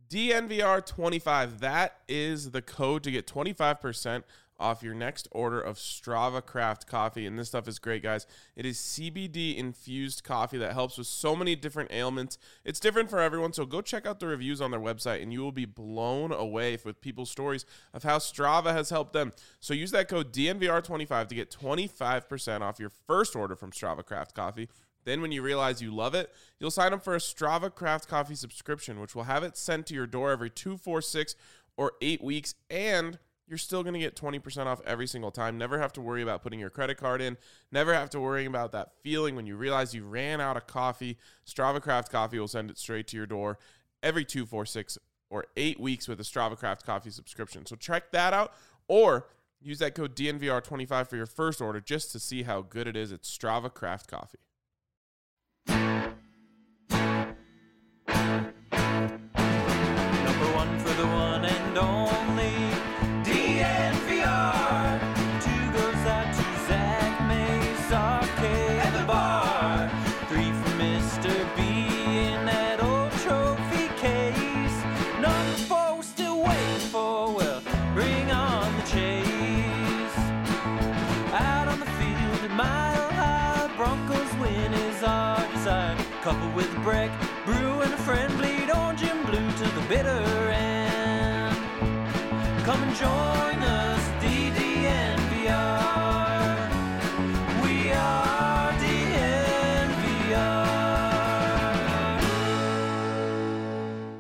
DNVR25. That is the code to get 25% off your next order of Strava Craft coffee. And this stuff is great, guys. It is CBD infused coffee that helps with so many different ailments. It's different for everyone, so go check out the reviews on their website and you will be blown away with people's stories of how Strava has helped them. So use that code DNVR25 to get 25% off your first order from Strava Craft coffee. Then when you realize you love it, you'll sign up for a Strava Craft coffee subscription, which will have it sent to your door every 2, 4, 6, or 8 weeks, and you're still going to get 20% off every single time. Never have to worry about putting your credit card in. Never have to worry about that feeling when you realize you ran out of coffee. Strava Craft coffee will send it straight to your door every 2, 4, 6, or 8 weeks with a Strava Craft coffee subscription. So check that out, or use that code DNVR25 for your first order just to see how good it is. It's Strava Craft coffee. Number one for the one and only DNVR. Two goes out to Zach Mays Arcade at the bar. 3 for Mr. B in that old trophy case. Number 4 we're still waiting for, well, bring on the chase. Out on the field at Mile High, Broncos win is our desire. Coupled with a break, brew and a friend, bleed orange and blue to the bitter end. Come and join us, DNVR. We are DNVR.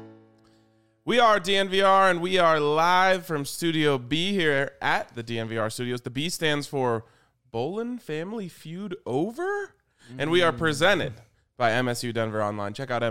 We are DNVR, and we are live from Studio B here at the DNVR studios. The B stands for Bolin Family Feud Over, and we are presented by MSU Denver Online. Check out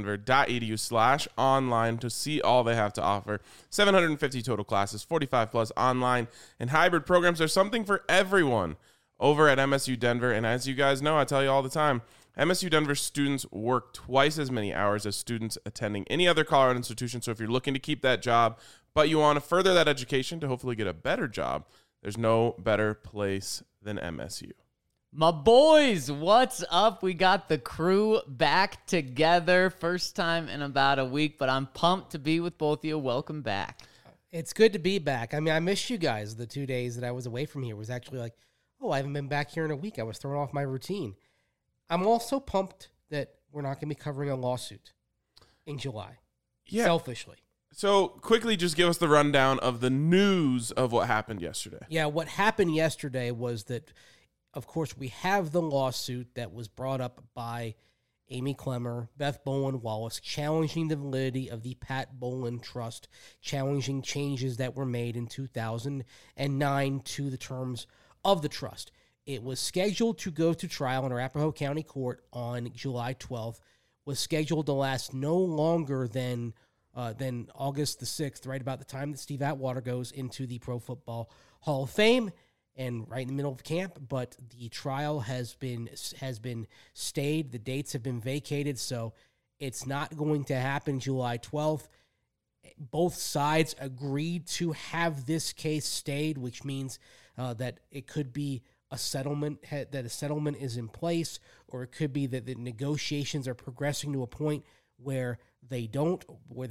msudenver.edu/online to see all they have to offer. 750 total classes, 45 plus online and hybrid programs. There's something for everyone over at MSU Denver. And as you guys know, I tell you all the time, MSU Denver students work twice as many hours as students attending any other Colorado institution. So if you're looking to keep that job, but you want to further that education to hopefully get a better job, there's no better place than MSU. My boys, what's up? We got the crew back together. First time in about a week, but I'm pumped to be with both of you. Welcome back. It's good to be back. I mean, I missed you guys. The 2 days that I was away from here was actually like, oh, I haven't been back here in a week. I was throwing off my routine. I'm also pumped that we're not going to be covering a lawsuit in July. Yeah. Selfishly. So quickly, just give us the rundown of the news of what happened yesterday. Yeah, what happened yesterday was that, of course, we have the lawsuit that was brought up by Amy Clemmer, Beth Bolin Wallace, challenging the validity of the Pat Bolin Trust, challenging changes that were made in 2009 to the terms of the trust. It was scheduled to go to trial in Arapahoe County Court on July 12th, was scheduled to last no longer than August the 6th, right about the time that Steve Atwater goes into the Pro Football Hall of Fame, and right in the middle of camp, but the trial has been stayed. The dates have been vacated, so it's not going to happen July 12th. Both sides agreed to have this case stayed, which means that it could be a settlement, that a settlement is in place, or it could be that the negotiations are progressing to a point where they don't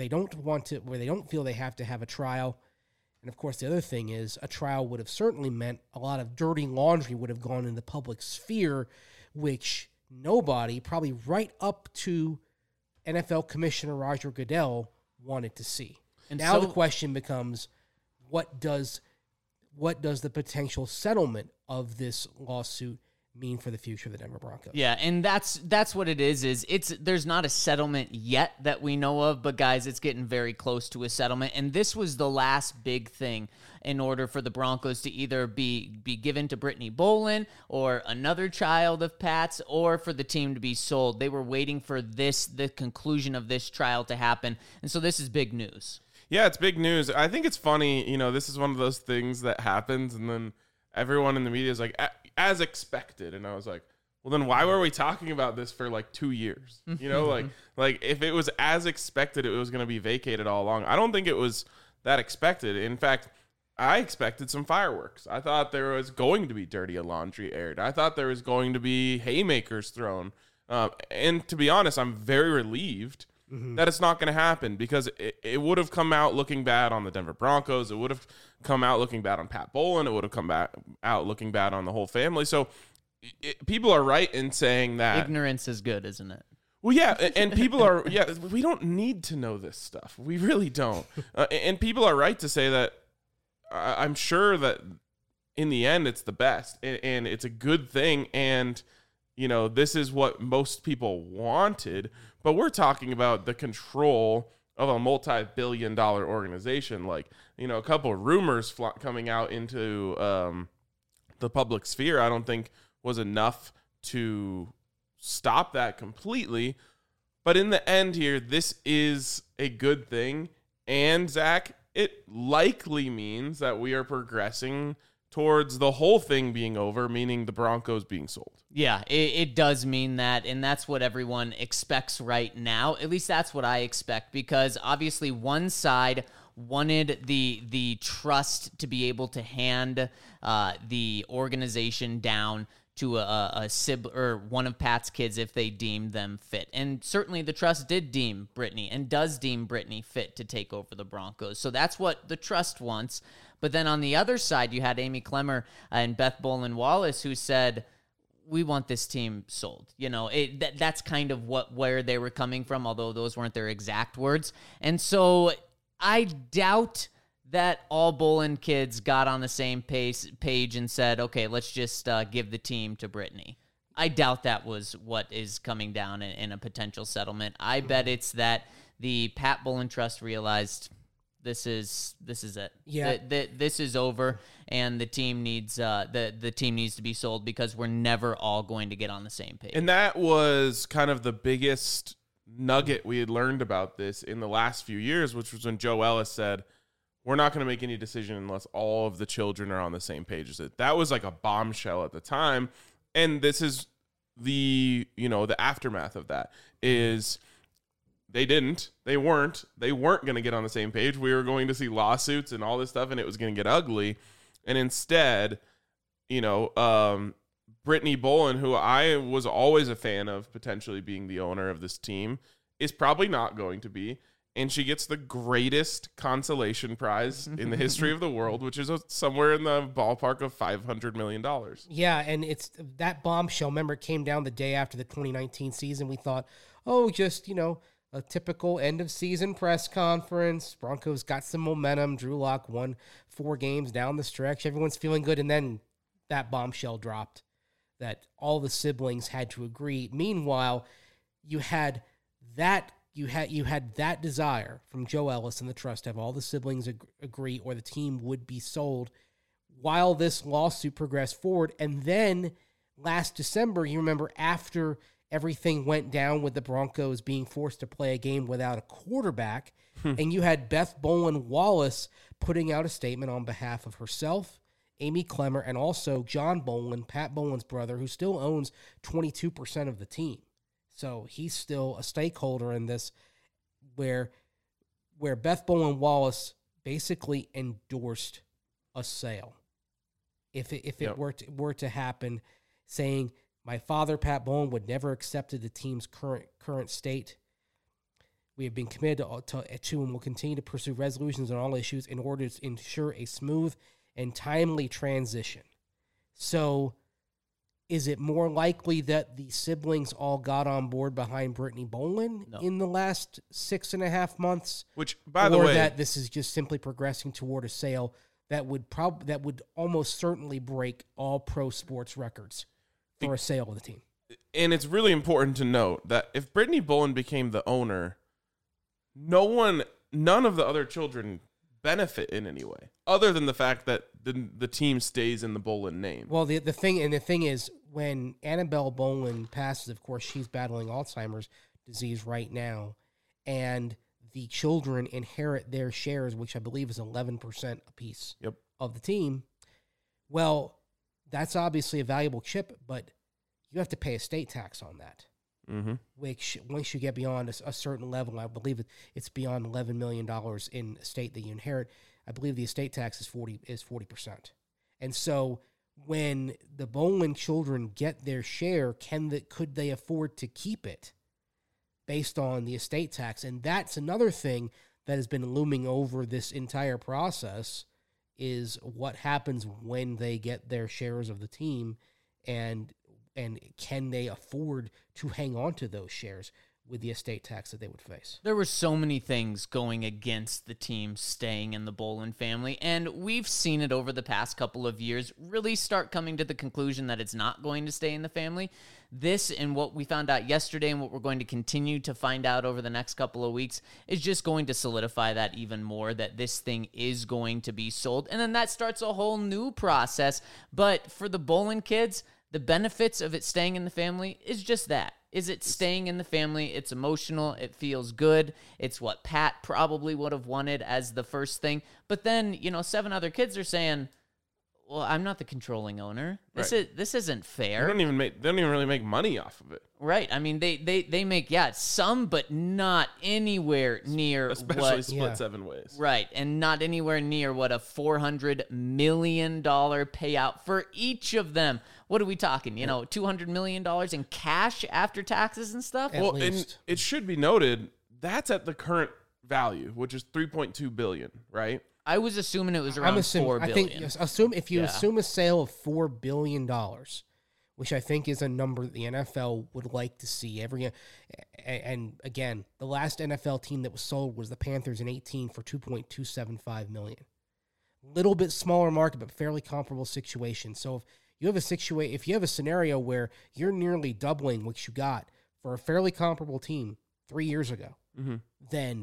feel they have to have a trial. And, of course, the other thing is a trial would have certainly meant a lot of dirty laundry would have gone in the public sphere, which nobody, probably right up to NFL Commissioner Roger Goodell, wanted to see. And now the question becomes, what does the potential settlement of this lawsuit mean for the future of the Denver Broncos? Yeah, and that's what it is there's not a settlement yet that we know of, but guys, it's getting very close to a settlement, and this was the last big thing in order for the Broncos to either be given to Brittany Bolin or another child of Pat's, or for the team to be sold. They were waiting for the conclusion of this trial to happen, and so this is big news. Yeah, it's big news. I think it's funny, this is one of those things that happens, and then everyone in the media is like, as expected. And I was like, well, then why were we talking about this for like 2 years? Like if it was as expected, it was going to be vacated all along. I don't think it was that expected. In fact, I expected some fireworks. I thought there was going to be dirty laundry aired. I thought there was going to be haymakers thrown. And to be honest, I'm very relieved that it's not going to happen because it would have come out looking bad on the Denver Broncos. It would have come out looking bad on Pat Bowlen. It would have come out looking bad on the whole family. So people are right in saying that. Ignorance is good, isn't it? Well, yeah, and people are, we don't need to know this stuff. We really don't. And people are right to say that I'm sure that in the end it's the best and it's a good thing. And, this is what most people wanted. But we're talking about the control of a multi-billion-dollar organization. Like, a couple of rumors coming out into the public sphere, I don't think was enough to stop that completely. But in the end here, this is a good thing. And, Zach, it likely means that we are progressing towards the whole thing being over, meaning the Broncos being sold. Yeah, it does mean that, and that's what everyone expects right now. At least that's what I expect, because obviously one side wanted the trust to be able to hand the organization down to a sibling or one of Pat's kids if they deemed them fit. And certainly the trust did deem Brittany and does deem Brittany fit to take over the Broncos. So that's what the trust wants. But then on the other side, you had Amy Clemmer and Beth Bowlen Wallace who said, we want this team sold. That's kind of where they were coming from, although those weren't their exact words. And so I doubt that all Bowlen kids got on the same page and said, okay, let's just give the team to Brittany. I doubt that was what is coming down in a potential settlement. I bet it's that the Pat Bowlen Trust realized this is it. Yeah, this is over, and the team needs the team needs to be sold because we're never all going to get on the same page. And that was kind of the biggest nugget we had learned about this in the last few years, which was when Joe Ellis said, we're not going to make any decision unless all of the children are on the same page as it. That was like a bombshell at the time. And this is the aftermath of that is they weren't going to get on the same page. We were going to see lawsuits and all this stuff, and it was going to get ugly. And instead, Brittany Bowlen, who I was always a fan of potentially being the owner of this team, is probably not going to be. And she gets the greatest consolation prize in the history of the world, which is somewhere in the ballpark of $500 million. Yeah, and it's that bombshell. Remember, it came down the day after the 2019 season. We thought, just, a typical end-of-season press conference. Broncos got some momentum. Drew Lock won 4 games down the stretch. Everyone's feeling good. And then that bombshell dropped that all the siblings had to agree. Meanwhile, you had that desire from Joe Ellis and the trust to have all the siblings agree or the team would be sold while this lawsuit progressed forward. And then last December, you remember after everything went down with the Broncos being forced to play a game without a quarterback, and you had Beth Bowlen Wallace putting out a statement on behalf of herself, Amy Clemmer, and also John Bowlen, Pat Bowlen's brother, who still owns 22% of the team. So he's still a stakeholder in this, where Beth Bowlen Wallace basically endorsed a sale. If it were to happen, saying my father Pat Bowlen would never accepted the team's current state. We have been committed to and will continue to pursue resolutions on all issues in order to ensure a smooth and timely transition. So, is it more likely that the siblings all got on board behind Brittany Bowlen in the last 6.5 months? Which, by the way, or that this is just simply progressing toward a sale that would almost certainly break all pro sports records for a sale of the team. And it's really important to note that if Brittany Bowlen became the owner, none of the other children benefit in any way, other than the fact that the team stays in the Bowlen name. Well, the thing is, when Annabelle Bowlen passes, of course, she's battling Alzheimer's disease right now, and the children inherit their shares, which I believe is 11% apiece of the team. Well, that's obviously a valuable chip, but you have to pay estate tax on that. Mm-hmm. Which, once you get beyond a certain level, I believe it's beyond $11 million in estate that you inherit. I believe the estate tax is 40%. And so, when the Bowlen children get their share, could they afford to keep it? based on the estate tax. And that's another thing that has been looming over this entire process, is what happens when they get their shares of the team, and can they afford to hang on to those shares with the estate tax that they would face. There were so many things going against the team staying in the Bolin family, and we've seen it over the past couple of years really start coming to the conclusion that it's not going to stay in the family. This, and what we found out yesterday and what we're going to continue to find out over the next couple of weeks, is just going to solidify that even more, that this thing is going to be sold. And then that starts a whole new process. But for the Bolin kids, the benefits of it staying in the family is just that. Is it staying in the family? It's emotional. It feels good. It's what Pat probably would have wanted as the first thing. But then, 7 other kids are saying, well, I'm not the controlling owner. This isn't fair. They don't even really make money off of it. Right. I mean, they make, some, but not anywhere near especially split 7 ways. Right. And not anywhere near what a $400 million payout for each of them. What are we talking? $200 million in cash after taxes and stuff? At least. And it should be noted, that's at the current value, which is $3.2 billion, right? I was assuming it was around $4 billion. I think, yes, assume a sale of $4 billion, which I think is a number that the NFL would like to see every. And again, the last NFL team that was sold was the Panthers in 2018 for $2.275 million. Little bit smaller market, but fairly comparable situation. So if you have a scenario where you're nearly doubling what you got for a fairly comparable team 3 years ago, then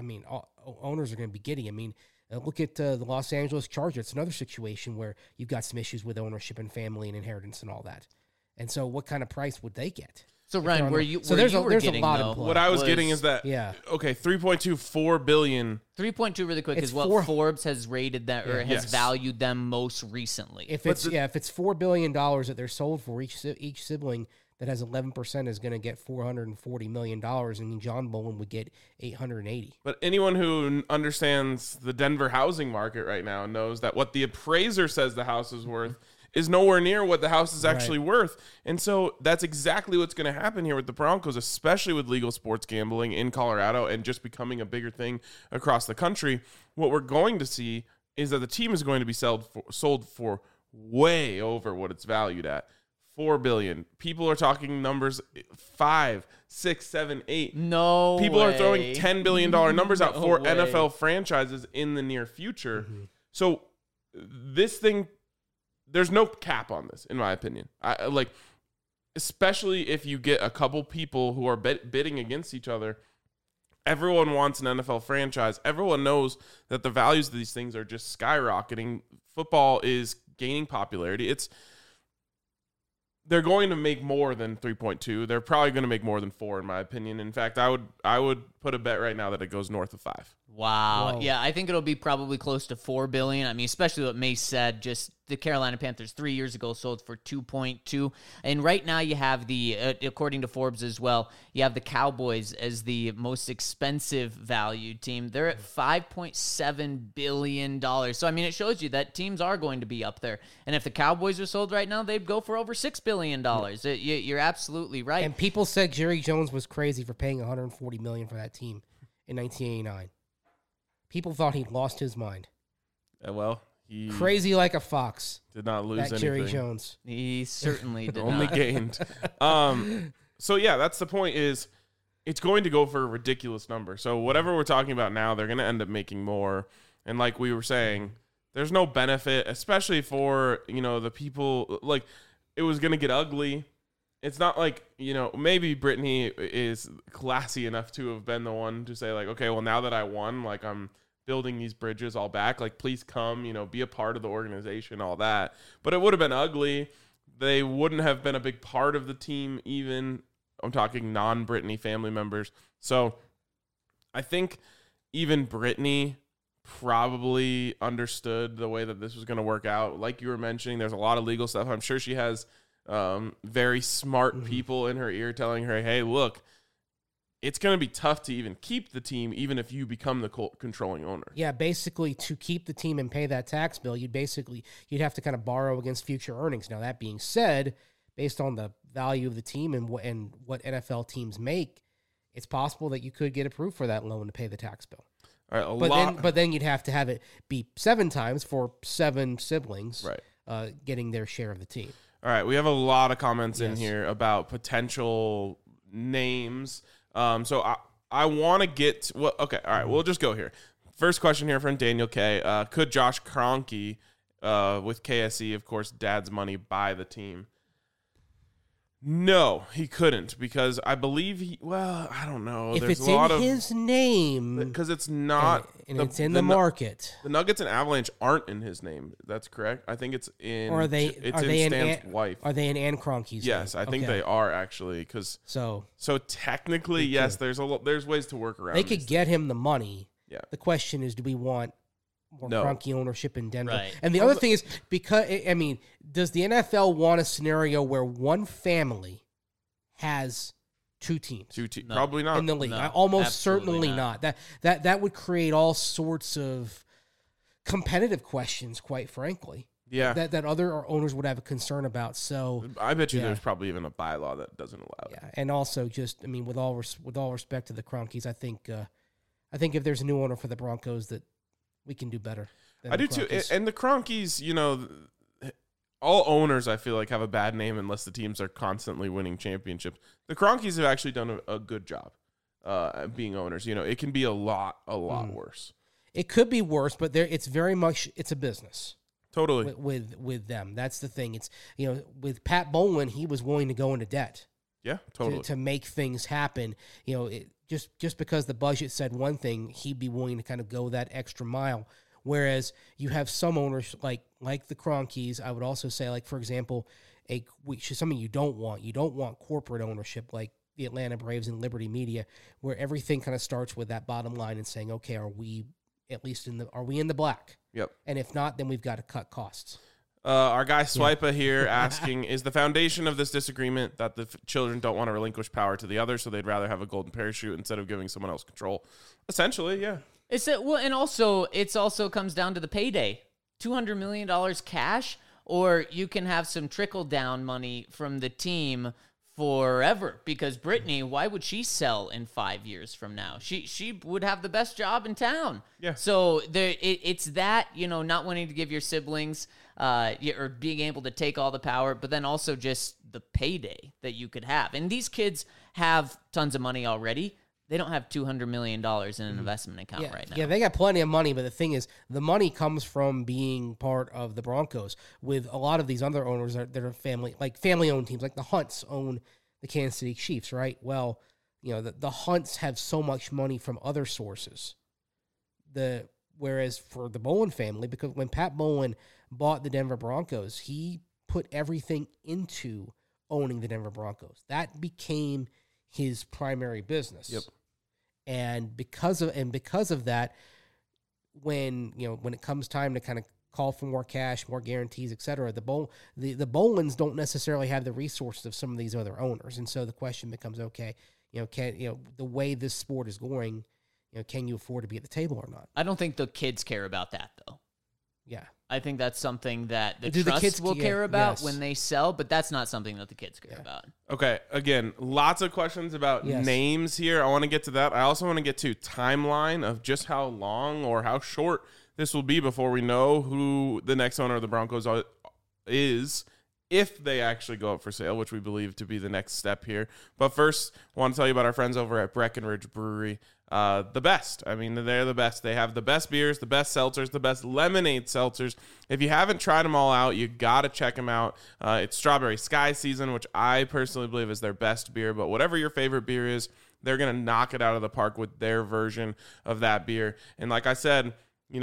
owners are going to be giddy. I mean, look at the Los Angeles Chargers. It's another situation where you've got some issues with ownership and family and inheritance and all that. And so, what kind of price would they get? So Ryan, there's a lot of what I was getting is that okay, 3.24 billion. 3.2 really quick is what Forbes has rated that or has valued them most recently. If it's $4 billion that they're sold for, each sibling that has 11% is going to get $440 million, and John Bolin would get $880. But anyone who understands the Denver housing market right now knows that what the appraiser says the house is worth is nowhere near what the house is actually worth. And so that's exactly what's going to happen here with the Broncos, especially with legal sports gambling in Colorado and just becoming a bigger thing across the country. What we're going to see is that the team is going to be sold for way over what it's valued at. $4 billion. People are talking numbers 5, 6, 7, 8. No People way. are throwing $10 billion numbers out for way. NFL franchises in the near future. So this thing, there's no cap on this, in my opinion. Especially if you get a couple people who are bidding against each other. Everyone wants an NFL franchise. Everyone knows that the values of these things are just skyrocketing. Football is gaining popularity. They're going to make more than 3.2. They're probably going to make more than 4, in my opinion. In fact, I would put a bet right now that it goes north of 5. Wow. Whoa. Yeah, I think it'll be probably close to $4 billion. I mean, especially what Mace said, just the Carolina Panthers 3 years ago sold for 2.2. And right now you have according to Forbes as well, you have the Cowboys as the most expensive valued team. They're at $5.7 billion. So, I mean, it shows you that teams are going to be up there. And if the Cowboys are sold right now, they'd go for over $6 billion. You're absolutely right. And people said Jerry Jones was crazy for paying $140 million for that team in 1989. People thought he'd lost his mind. He crazy like a fox. Did not lose anything. Jerry Jones. He certainly did only not. gained. So yeah, that's the point. Is it's going to go for a ridiculous number. So whatever we're talking about now, they're going to end up making more. And like we were saying, there's no benefit, especially for the people. Like it was going to get ugly. It's not like, maybe Brittany is classy enough to have been the one to say like, okay, well now that I won, like I'm building these bridges all back, like please come, be a part of the organization, all that. But it would have been ugly. They wouldn't have been a big part of the team even. I'm talking non-Brittany family members. So I think even Brittany probably understood the way that this was going to work out. Like you were mentioning, there's a lot of legal stuff. I'm sure she has very smart people in her ear telling her, hey, look, it's going to be tough to even keep the team, even if you become the controlling owner. Yeah, basically, to keep the team and pay that tax bill, you'd have to kind of borrow against future earnings. Now, that being said, based on the value of the team and what NFL teams make, it's possible that you could get approved for that loan to pay the tax bill. All right, But then you'd have to have it be 7 times for 7 siblings, Right. Getting their share of the team. All right, we have a lot of comments in Yes. here about potential names. So I want to get okay. All right, we'll just go here. First question here from Daniel K. Could Josh Kroenke with KSE, of course, Dad's money, buy the team? No, he couldn't because I believe I don't know. If There's it's a lot in of his name, because it's not and it's in the market, The Nuggets and Avalanche aren't in his name. That's correct. I think it's in. or are they? It's Are in they Stan's in? wife. Are they in Ann Kroenke's Yes, name? I think Okay. they are actually because. So So technically, yes, there's there's ways to work around. they these could get him the money. Yeah. The question is, do we want more No. Kroenke ownership in Denver? Right. And the other thing is, because I mean, does the NFL want a scenario where one family has 2 teams No. Probably not. in the league? No, I almost absolutely certainly not. not. That would create all sorts of competitive questions, quite frankly. Yeah, That other owners would have a concern about. So I bet you Yeah. there's probably even a bylaw that doesn't allow it. yeah, and also just I mean, with all respect to the Kroenkes, I think if there's a new owner for the Broncos, that we can do better. than I the do too. Kroenkes. And the Kroenkes, all owners I feel like have a bad name unless the teams are constantly winning championships. The Kroenkes have actually done a good job at being owners. It can be a lot worse. It could be worse, but it's very much it's a business Totally. with them. That's the thing. It's with Pat Bowlen, he was willing to go into debt Yeah, totally. to make things happen. Just because the budget said one thing, he'd be willing to kind of go that extra mile. Whereas you have some owners like the Kroenkes, I would also say, like for example, which is something you don't want. You don't want corporate ownership like the Atlanta Braves and Liberty Media, where everything kind of starts with that bottom line and saying, okay, are we in the black? Yep. And if not, then we've got to cut costs. Our guy Swipa here asking, is the foundation of this disagreement that the children don't want to relinquish power to the other, so they'd rather have a golden parachute instead of giving someone else control? Essentially, yeah. And also it's also comes down to the payday. $200 million cash, or you can have some trickle down money from the team forever. Because Brittany, why would she sell in 5 years from now? She would have the best job in town. Yeah. So it's that, not wanting to give your siblings or being able to take all the power, but then also just the payday that you could have. And these kids have tons of money already. They don't have $200 million in an investment account right now. Yeah, they got plenty of money, but the thing is, the money comes from being part of the Broncos. With a lot of these other owners that are family-owned teams, like the Hunts own the Kansas City Chiefs, right? Well, the Hunts have so much money from other sources. Whereas for the Bowlen family, because when Pat Bowlen bought the Denver Broncos, he put everything into owning the Denver Broncos. That became his primary business. Yep. And because of that, when it comes time to kind of call for more cash, more guarantees, et cetera, the Bolins don't necessarily have the resources of some of these other owners. And so the question becomes, okay, the way this sport is going, can you afford to be at the table or not? I don't think the kids care about that, though. Yeah. I think that's something that the Do the trusts kids will care? care about Yes. when they sell, but that's not something that the kids care Yeah. about. Okay, again, lots of questions about Yes. names here. I want to get to that. I also want to get to timeline of just how long or how short this will be before we know who the next owner of the Broncos is, if they actually go up for sale, which we believe to be the next step here. But first, I want to tell you about our friends over at Breckenridge Brewery. The best. I mean, they're the best. They have the best beers, the best seltzers, the best lemonade seltzers. If you haven't tried them all out, you got to check them out. It's Strawberry Sky season, which I personally believe is their best beer. But whatever your favorite beer is, they're going to knock it out of the park with their version of that beer. And like I said,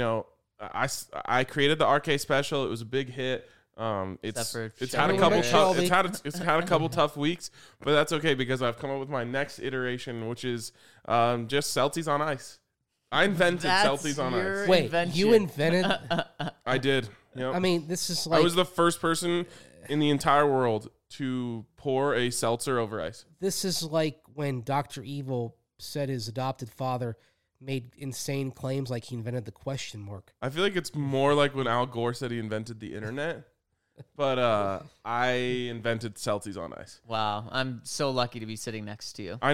I created the RK special. It was a big hit. It's had a couple tough weeks, but that's okay because I've come up with my next iteration, which is just Celtics on ice. I invented Celtics on ice. Wait, invention. you invented? I did. Yep. I mean, this is I like was the first person in the entire world to pour a seltzer over ice. this is like when Dr. Evil said his adopted father made insane claims like he invented the question mark. I feel like it's more like when Al Gore said he invented the internet, but I invented Celtics on ice. Wow, I'm so lucky to be sitting next to you. I know.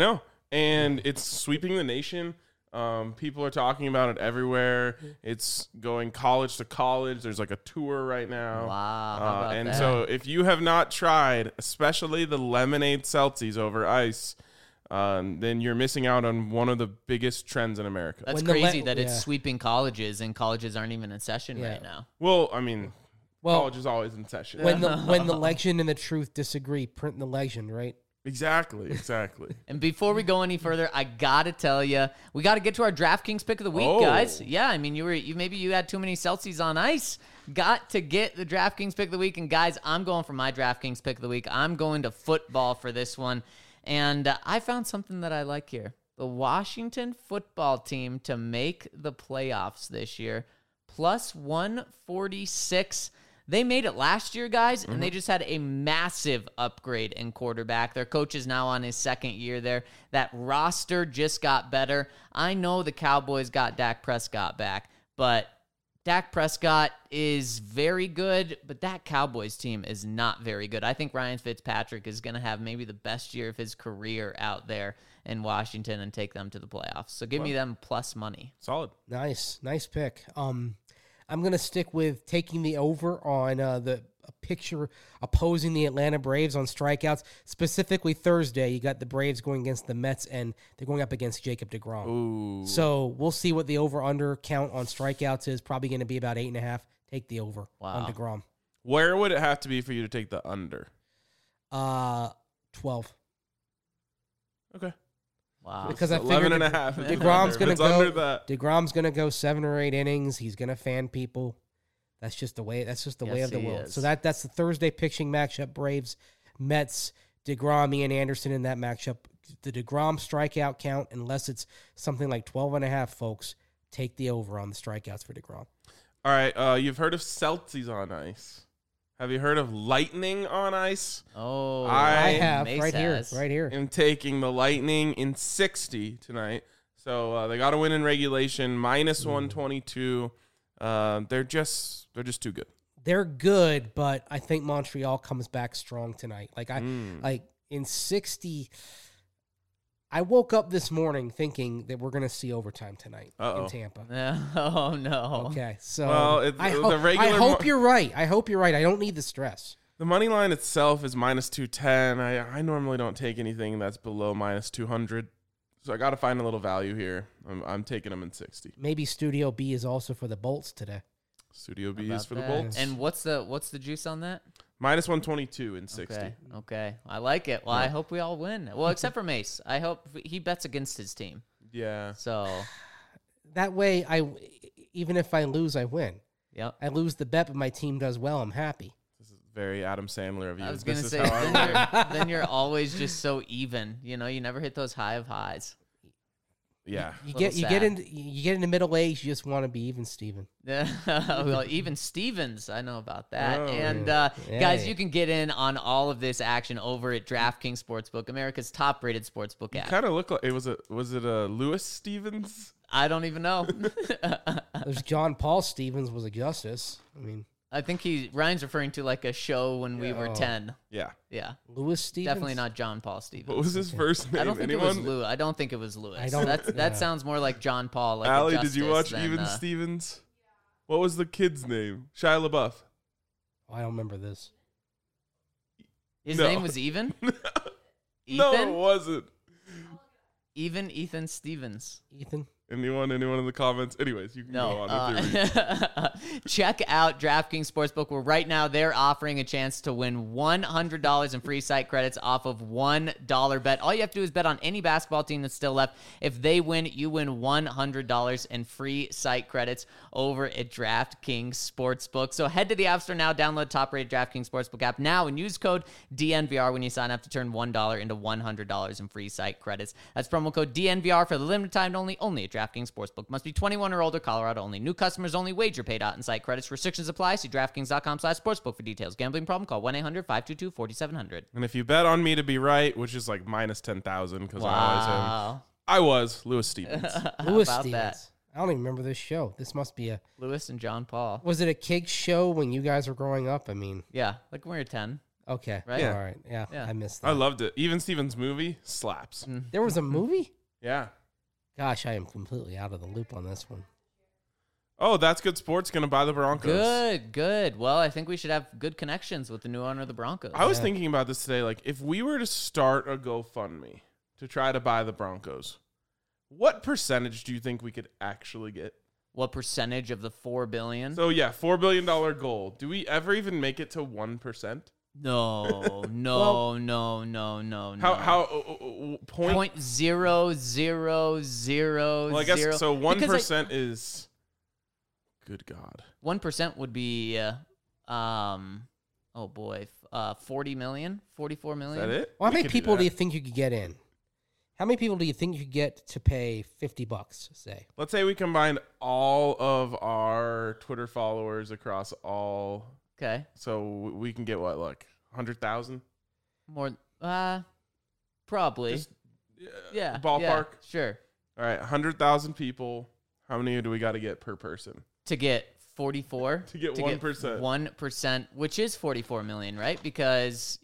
and it's sweeping the nation. People are talking about it everywhere. It's going college to college. There's like a tour right now. Wow. How about and that? so if you have not tried, especially the lemonade seltzies over ice, then you're missing out on one of the biggest trends in America. That's When the crazy le- that it's yeah. sweeping colleges, and colleges aren't even in session Yeah. right now. Well, I mean, Well, college is always in session. when the legend and the truth disagree, print the legend, right? Exactly. And before we go any further, I gotta tell you, we gotta get to our DraftKings pick of the week, Oh. guys. Yeah, I mean, maybe you had too many Celsius on ice. Got to get the DraftKings pick of the week, and guys, I'm going for my DraftKings pick of the week. I'm going to football for this one, and I found something that I like here: the Washington football team to make the playoffs this year, plus 146. They made it last year, guys, and they just had a massive upgrade in quarterback. Their coach is now on his second year there. That roster just got better. I know the Cowboys got Dak Prescott back, but Dak Prescott is very good, but that Cowboys team is not very good. I think Ryan Fitzpatrick is going to have maybe the best year of his career out there in Washington and take them to the playoffs. So give me them plus money. Solid. Nice pick. I'm gonna stick with taking the over on the picture opposing the Atlanta Braves on strikeouts. Specifically Thursday, you got the Braves going against the Mets, and they're going up against Jacob deGrom. Ooh. So we'll see what the over/under count on strikeouts is. Probably going to be about 8.5. Take the over on deGrom. Where would it have to be for you to take the under? 12. Okay. Wow. Because I 11 figured and a half. deGrom's going to It's under go. that. deGrom's going to go 7 or 8 innings. He's going to fan people. That's just the way. That's just the way Yes, of the he world. is. So that's the Thursday pitching matchup: Braves, Mets, deGrom, Ian Anderson in that matchup. The deGrom strikeout count, unless it's something like 12.5, folks, take the over on the strikeouts for deGrom. All right. You've heard of Celtics on ice. Have you heard of Lightning on ice? Oh, I have Mace right has. here. I'm taking the Lightning in 60 tonight. So they got to win in regulation, minus 122. They're just too good. They're good, but I think Montreal comes back strong tonight. Like in 60. I woke up this morning thinking that we're going to see overtime tonight in Tampa. Oh, no. Okay, so Well, I the hope you're right. I hope you're right. I don't need the stress. The money line itself is minus 210. I normally don't take anything that's below minus 200. So I got to find a little value here. I'm taking them in 60. Maybe Studio B is also for the Bolts today. Studio B About is for the that. Bolts. And what's the juice on that? Minus 122 in 60. Okay. I like it. Well, I hope we all win. Well, except for Mace. I hope he bets against his team. Yeah. So, That way, even if I lose, I win. yep. I lose the bet, but my team does well. I'm happy. This is very Adam Sandler of you. I was This going to is say, how I win. then you're always just so even. You know, you never hit those high of highs. Yeah. You Little get sad. into middle age, you just want to be even, Steven. Well, even Stevens, I know about that. Oh, and yeah. guys, Yeah. you can get in on all of this action over at DraftKings Sportsbook, America's top-rated sportsbook app. Kind of look like was it a Lewis Stevens? I don't even know. There's John Paul Stevens was a justice. I mean, I think Ryan's referring to like a show when we were Yeah. 10. Yeah. Yeah, Lewis Stevens. definitely not John Paul Stevens. What was his first name? I don't think Anyone? it was Lewis. I don't think it was Lewis. I don't- That yeah. sounds more like John Paul. Like Allie, a did you justice watch than, Even Stevens? What was the kid's name? Shia LaBeouf. Oh, I don't remember this. His No. name was Even. No, it Ethan. wasn't. Even Ethan Stevens. Ethan. Anyone in the comments? Anyways, you can go on with your read. Check out DraftKings Sportsbook, where right now they're offering a chance to win $100 in free site credits off of $1 bet. All you have to do is bet on any basketball team that's still left. If they win, you win $100 in free site credits over at DraftKings Sportsbook. So head to the App Store now, download the top-rated DraftKings Sportsbook app now, and use code DNVR when you sign up to turn $1 into $100 in free site credits. That's promo code DNVR for the limited time only at DraftKings Sportsbook. Must be 21 or older, Colorado only. New customers only. Wager paid out in site credits. Restrictions apply. See DraftKings.com/sportsbook for details. Gambling problem? Call 1-800-522-4700. And if you bet on me to be right, which is like minus 10,000 because I always am. Wow. I was Lewis Stevens. Lewis about Stevens. that? I don't even remember this show. This must be Lewis and John Paul. was it a kid show when you guys were growing up? I mean, Yeah, like when we were 10. Okay. Right? Yeah. All right. Yeah, Yeah. I missed that. I loved it. Even Stevens' movie slaps. There was a movie? Yeah. Gosh, I am completely out of the loop on this one. Oh, That's Good Sports going to buy the Broncos. Good. Well, I think we should have good connections with the new owner of the Broncos. I was thinking about this today. Like, if we were to start a GoFundMe to try to buy the Broncos, what percentage do you think we could actually get? What percentage of the $4 billion? So, yeah, $4 billion goal. Do we ever even make it to 1%? No. How Point zero zero zero. Well, I guess zero. so. Because 1% is. Good God. 1% would be, oh boy, 40 million, 44 Is million. that it? Well, how We many could people do that. you think you could get in? How many people do you think you could get to pay $50, say? Let's say we combined all of our Twitter followers across all. Okay, So we can get what, like 100,000? more, probably. Just, yeah, ballpark. yeah, sure. All right, 100,000 people. How many do we got to get per person? To get 44. To get 1%. 1%, which is 44 million, right? Because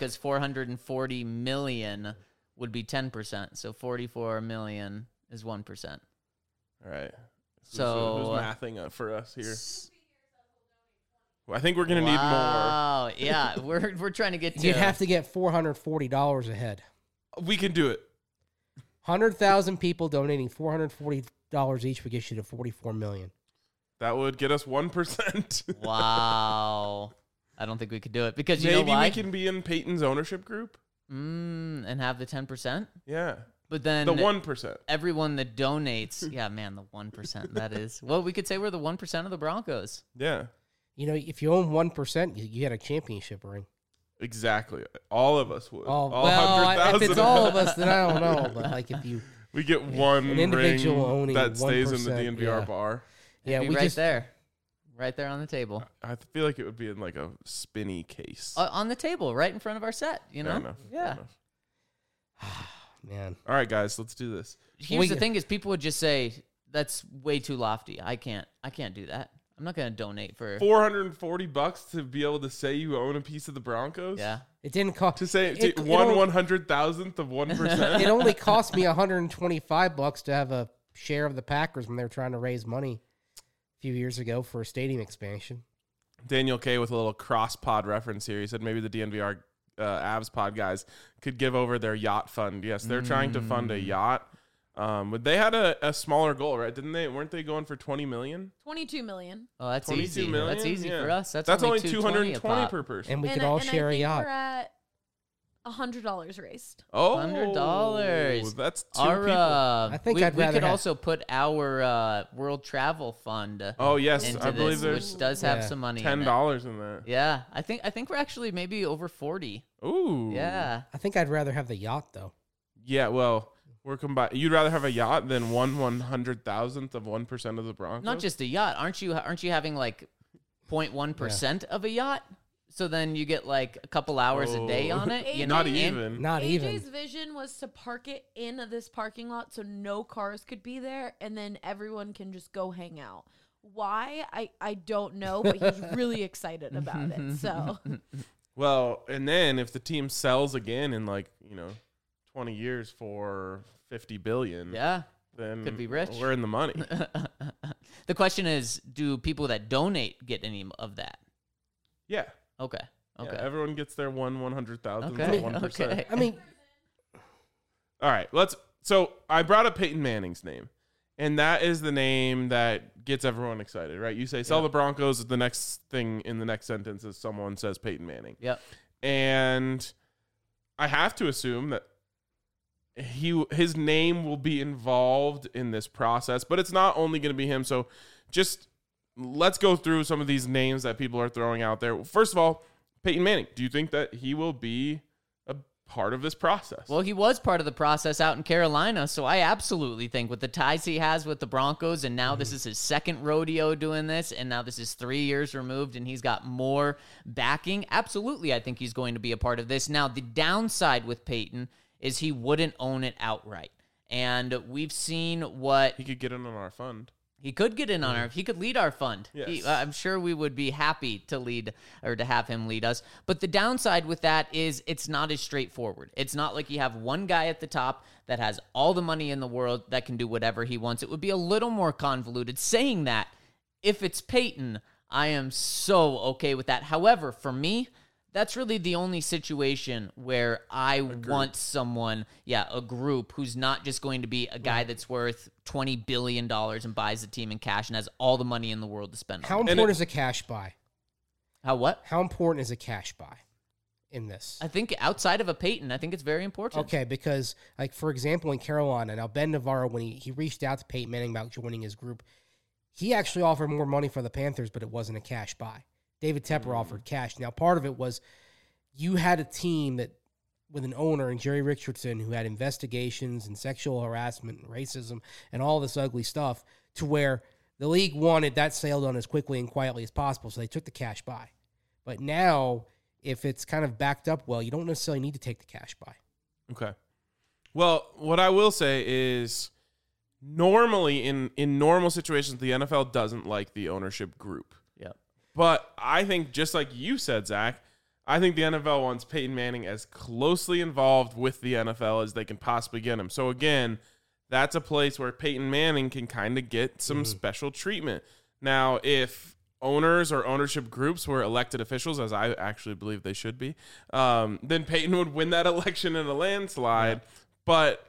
440 million would be 10%. So 44 million is 1%. All right. So, who's mathing up for us here? Well, I think we're gonna need more. Wow. Yeah, we're trying to get to. You'd have to get $440 a head. We can do it. 100,000 people donating $440 each would get you to $44 million. That would get us 1%. Wow. I don't think we could do it because you Maybe know why? we can be in Peyton's ownership group. And have the 10%. Yeah, But then the 1%. everyone that donates, yeah, man, the 1%. That is. Well, we could say we're the 1% of the Broncos. Yeah, You know, if you own 1%, you get a championship ring. exactly. All of us would. Oh, all well, if 100,000 it's all of us, then I don't know. But like if you, we get one an individual ring owning that stays in the 1%, DNVR yeah. bar. yeah, It'd we be just right there on the table. I feel like it would be in like a spinny case. On the table, right in front of our set, you know? Fair enough. Yeah. Fair enough. man. All right, guys, let's do this. Here's the thing is people would just say, that's way too lofty. I can't do that. I'm not going to donate for, $440 to be able to say you own a piece of the Broncos. yeah. It didn't cost. To say It- it one only- 100,000th of 1%. It only cost me $125 to have a share of the Packers when they were trying to raise money a few years ago for a stadium expansion. Daniel K with a little cross pod reference here. He said maybe the DNVR Avs pod guys could give over their yacht fund. Yes, they're trying to fund a yacht. But they had a smaller goal, right? Didn't they? Weren't they going for 20 million? 22 million. Oh, that's 22 easy. million? That's easy Yeah. for us. That's only 220 a 220 pop. per person. And we could all share I a think yacht. We're at $100 raised. Oh, $100. That's two Our, people. I think we I'd rather could have- also put our world travel fund Oh yes, into I believe this, which does have Yeah. some money. $10 In it. in that. Yeah, I think we're actually maybe over 40. Ooh. Yeah. I think I'd rather have the yacht though. Yeah. Well, we're combined. You'd rather have a yacht than 1/100,000th of 1% of the Broncos. Not just a yacht. Aren't you having like 0.1% of a yacht? So then you get like a couple hours a day on it. You know? Not And- even. Not AJ's even. vision was to park it in this parking lot so no cars could be there, and then everyone can just go hang out. Why? I don't know, but he's really excited about it. So Well, and then if the team sells again in 20 years for 50 billion, Yeah. then Could be rich. We're in the money. The question is, do people that donate get any of that? Yeah. Okay. Yeah, Okay. everyone gets their 1/100,000th Okay. of 1%. Okay. I mean, All right, so I brought up Peyton Manning's name, and that is the name that gets everyone excited, right? You say sell the Broncos, the next thing in the next sentence is someone says Peyton Manning. Yep. And I have to assume that his name will be involved in this process, but it's not only going to be him. So just let's go through some of these names that people are throwing out there. First of all, Peyton Manning. Do you think that he will be a part of this process? Well, he was part of the process out in Carolina, so I absolutely think with the ties he has with the Broncos, and now this is his second rodeo doing this, and now this is 3 years removed, and he's got more backing. Absolutely, I think he's going to be a part of this. Now, the downside with Peyton is he wouldn't own it outright. And we've seen what he could get in on our fund. He could get in on our. He could lead our fund. Yes. I'm sure we would be happy to lead or to have him lead us. But the downside with that is it's not as straightforward. It's not like you have one guy at the top that has all the money in the world that can do whatever he wants. It would be a little more convoluted. Saying that, if it's Peyton, I am so okay with that. However, for me, that's really the only situation where I want someone, a group who's not just going to be a guy that's worth $20 billion and buys the team in cash and has all the money in the world to spend How on it. important is a cash buy? How what? How important is a cash buy in this? I think outside of a Peyton, I think it's very important. Okay, because, like, for example, in Carolina, now Ben Navarro, when he reached out to Peyton Manning about joining his group, he actually offered more money for the Panthers, but it wasn't a cash buy. David Tepper offered cash. Now, part of it was you had a team that with an owner and Jerry Richardson who had investigations and sexual harassment and racism and all this ugly stuff to where the league wanted that sale done as quickly and quietly as possible, so they took the cash buy. But now, if it's kind of backed up well, you don't necessarily need to take the cash buy. Okay. Well, what I will say is normally in normal situations, the NFL doesn't like the ownership group. Yep. But I think just like you said, Zach, I think the NFL wants Peyton Manning as closely involved with the NFL as they can possibly get him. So again, that's a place where Peyton Manning can kind of get some special treatment. Now, if owners or ownership groups were elected officials, as I actually believe they should be, then Peyton would win that election in a landslide. Yeah. But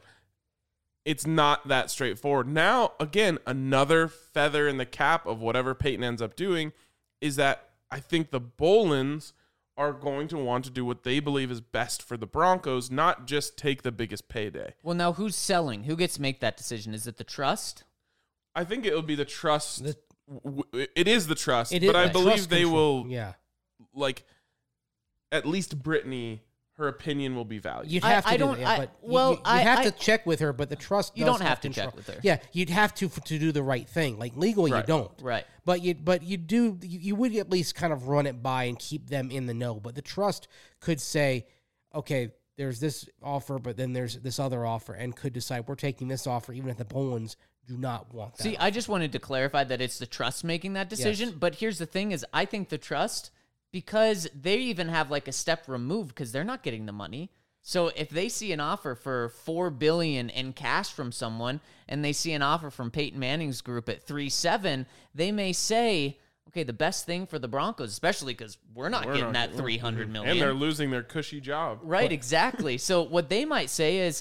it's not that straightforward. Now, again, another feather in the cap of whatever Peyton ends up doing is that I think the Bolins are going to want to do what they believe is best for the Broncos, not just take the biggest payday. Well, now who's selling? Who gets to make that decision? Is it the trust? I think it would be the trust. It is the trust, It is but I the believe trust they control. will, Yeah. like, at least Brittany, her opinion will be valued. You'd have I to do don't- that, I- but well, you have I- to check with her, but the trust You does don't have to control. check with her. Yeah, you'd have to do the right thing. Like legally, you Right. don't. Right. But you would at least kind of run it by and keep them in the know. But the trust could say, okay, there's this offer, but then there's this other offer, and could decide we're taking this offer, even if the Bolins do not want that. See, I just wanted to clarify that it's the trust making that decision. Yes. But here's the thing is I think the trust, because they even have like a step removed because they're not getting the money. So if they see an offer for $4 billion in cash from someone and they see an offer from Peyton Manning's group at 3.7, they may say, okay, the best thing for the Broncos, especially because we're not getting that $300 million. And they're losing their cushy job. Right, exactly. So what they might say is,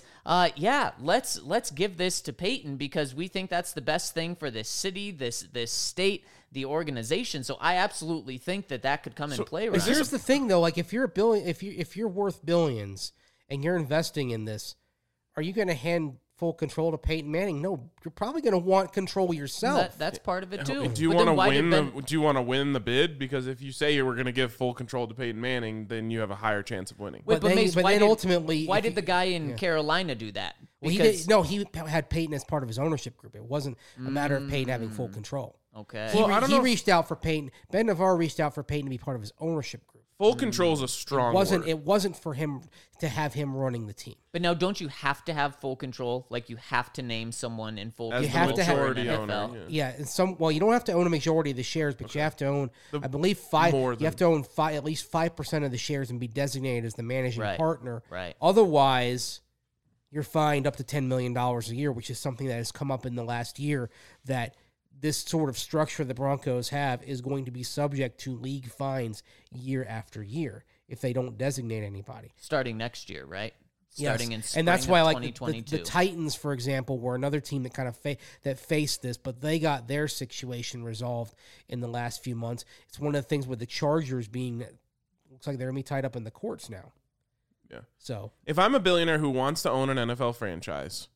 let's give this to Peyton because we think that's the best thing for this city, this state, the organization. So I absolutely think that could come in play. But Right? here's the thing, though. Like, if you're a billion, if you're worth billions and you're investing in this, are you going to hand full control to Peyton Manning? No, you're probably going to want control yourself. That's part of it too. Do you But want then to why did win? Ben- Do you want to win the bid? Because if you say you were going to give full control to Peyton Manning, then you have a higher chance of winning. Wait, But Mace, then why did- ultimately, why if did you- the guy in Carolina do that? Well, he had Peyton as part of his ownership group. It wasn't a matter of Peyton having full control. Okay. Well, I don't He know if- reached out for Peyton. Ben Navarro reached out for Peyton to be part of his ownership group. Full control is a strong word. It wasn't for him to have him running the team. But now, don't you have to have full control? Like you have to name someone in full As control. the have to have- majority in owner. NFL? Yeah. Yeah, you don't have to own a majority of the shares, but you have to own, I believe, more You have to own at least 5% of the shares and be designated as the managing Right, partner. right. Otherwise, you're fined up to $10 million a year, which is something that has come up in the last year. That this sort of structure the Broncos have is going to be subject to league fines year after year if they don't designate anybody. Starting next year, right? Yes. Starting in spring and that's why, of like 2022. the Titans, for example, were another team that kind of that faced this, but they got their situation resolved in the last few months. It's one of the things with the Chargers being looks like they're gonna be tied up in the courts now. Yeah. So If I'm a billionaire who wants to own an NFL franchise,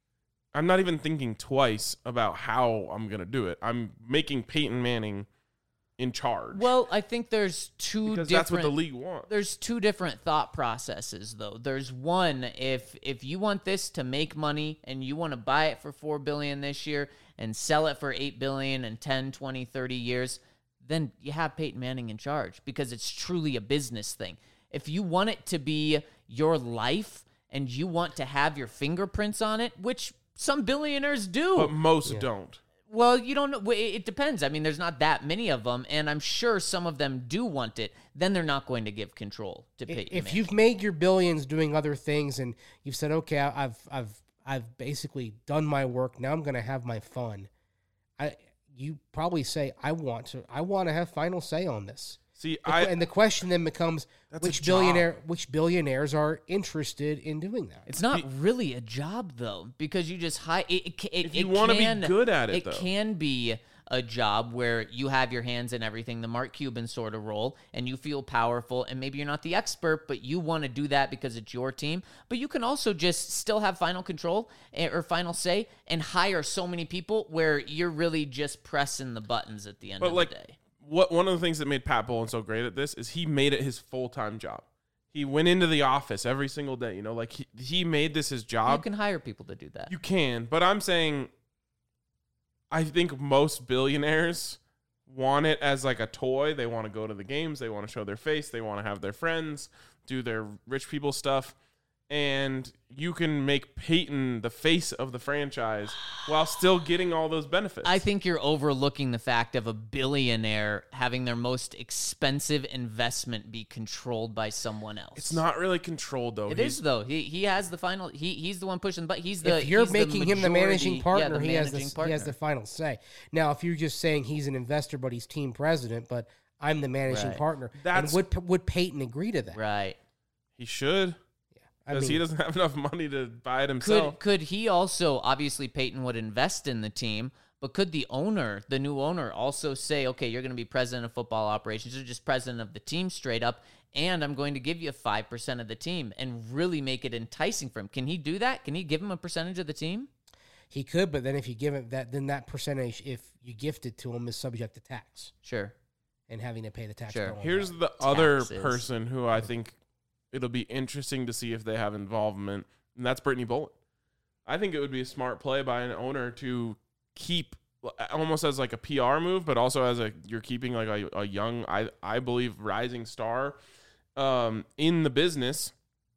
I'm not even thinking twice about how I'm going to do it. I'm making Peyton Manning in charge. Well, I think there's two because different. that's what the league wants. There's two different thought processes, though. There's one, if you want this to make money and you want to buy it for $4 billion this year and sell it for $8 billion in 10, 20, 30 years, then you have Peyton Manning in charge because it's truly a business thing. If you want it to be your life and you want to have your fingerprints on it, which some billionaires do. But most don't. Well, you don't know. It depends. I mean, there's not that many of them, and I'm sure some of them do want it. Then they're not going to give control to Peyton If Manning. you've made your billions doing other things and you've said, okay, I've basically done my work. Now I'm going to have my fun. You probably say, I want to have final say on this. See, And the question then becomes, That's a which job. billionaires are interested in doing that? It's not really a job though, because you just hire. If you wanna be good at it, though. can be a job where you have your hands in everything, the Mark Cuban sort of role, and you feel powerful, and maybe you're not the expert, but you want to do that because it's your team. But you can also just still have final control or final say and hire so many people where you're really just pressing the buttons at the end But of like, the day. one of the things that made Pat Bowlen so great at this is he made it his full-time job. He went into the office every single day. Like he made this his You job. can hire people to do that. You can, but I'm saying, I think most billionaires want it as like a toy. They want to go to the games. They want to show their face. They want to have their friends do their rich people stuff. And you can make Peyton the face of the franchise while still getting all those benefits. I think you're overlooking the fact of a billionaire having their most expensive investment be controlled by someone else. it's not really controlled though. It is though. He has the final. He's the one pushing. But he's the. If you're he's making the him the managing majority- partner, yeah, he has managing the partner. he has the final say. Now, if you're just saying he's an investor but he's team president, but I'm the managing Right. partner, That's- and would Peyton agree to that? Right. He should, I because he mean, doesn't have enough money to buy it himself. Could he also, obviously Peyton would invest in the team, but could the owner, the new owner, also say, okay, you're going to be president of football operations or just president of the team straight up, and I'm going to give you 5% of the team and really make it enticing for him? Can he do that? Can he give him a percentage of the team? he could, but then if you give him that, then that percentage, if you gift it to him, is subject to tax Sure. and having to pay the tax. Sure. bill on Here's that. the other Taxes. person who I think it'll be interesting to see if they have involvement, and that's Brittany Bowlen. I think it would be a smart play by an owner to keep almost as like a PR move, but also as you're keeping like a young, I believe, rising star in the business,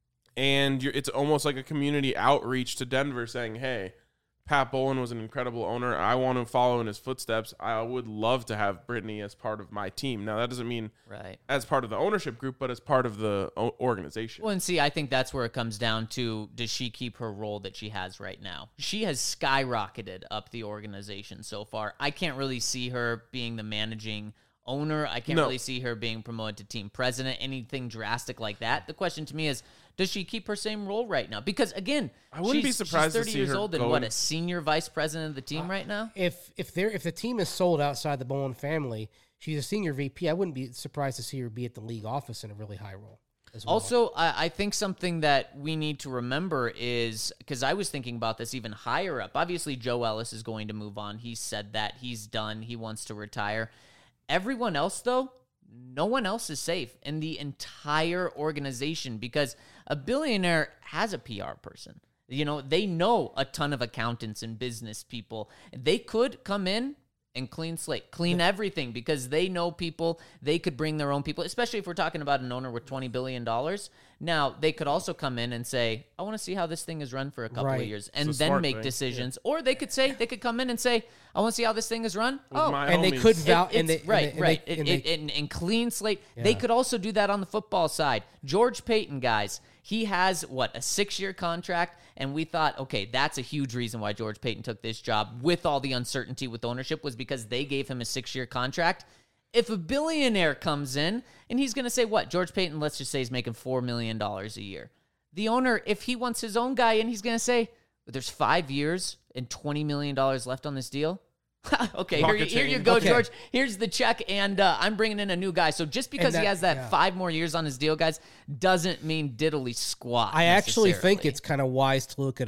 and it's almost like a community outreach to Denver saying, hey, Pat Bowlen was an incredible owner. I want to follow in his footsteps. I would love to have Brittany as part of my team. Now, that doesn't mean Right. as part of the ownership group, but as part of the organization. Well, and see, I think that's where it comes down to, does she keep her role that she has right now? She has skyrocketed up the organization so far. I can't really see her being the managing owner. I can't No. really see her being promoted to team president, anything drastic like that. The question to me is, does she keep her same role right now? Because, again, I wouldn't be she's surprised to 30 see years her old and, going- what, a senior vice president of the team right now? If the team is sold outside the Bowlen family, she's a senior VP. I wouldn't be surprised to see her be at the league office in a really high role as well. Also, I think something that we need to remember is, because I was thinking about this even higher up. Obviously, Joe Ellis is going to move on. He said that. He's done. He wants to retire. Everyone else, though, no one else is safe in the entire organization, because a billionaire has a PR person. You know, they know a ton of accountants and business people. They could come in and clean slate, clean everything, because they know people. They could bring their own people, especially if we're talking about an owner with $20 billion. Now, they could also come in and say, I want to see how this thing is run for a couple Right. of years, and It's a then smart make thing. decisions. Or they could say, they could come in and say, I want to see how this thing is run. With my and they homies. could val- and It's they, right, and they- right. and they- And clean slate. They could also do that on the football side. George Payton, guys, he has, what, a 6-year contract? And we thought, okay, that's a huge reason why George Payton took this job with all the uncertainty with ownership, was because they gave him a 6-year contract. If a billionaire comes in and he's going to say, what, George Payton, let's just say he's making $4 million a year. The owner, if he wants his own guy in, he's going to say, there's 5 years and $20 million left on this deal. Okay, Pocket here you change. go, Okay. George. Here's the check, and I'm bringing in a new guy. So just because he that- has that yeah. 5 more years on his deal, guys, doesn't mean diddly squat. I actually think necessarily. it's kind of wise to look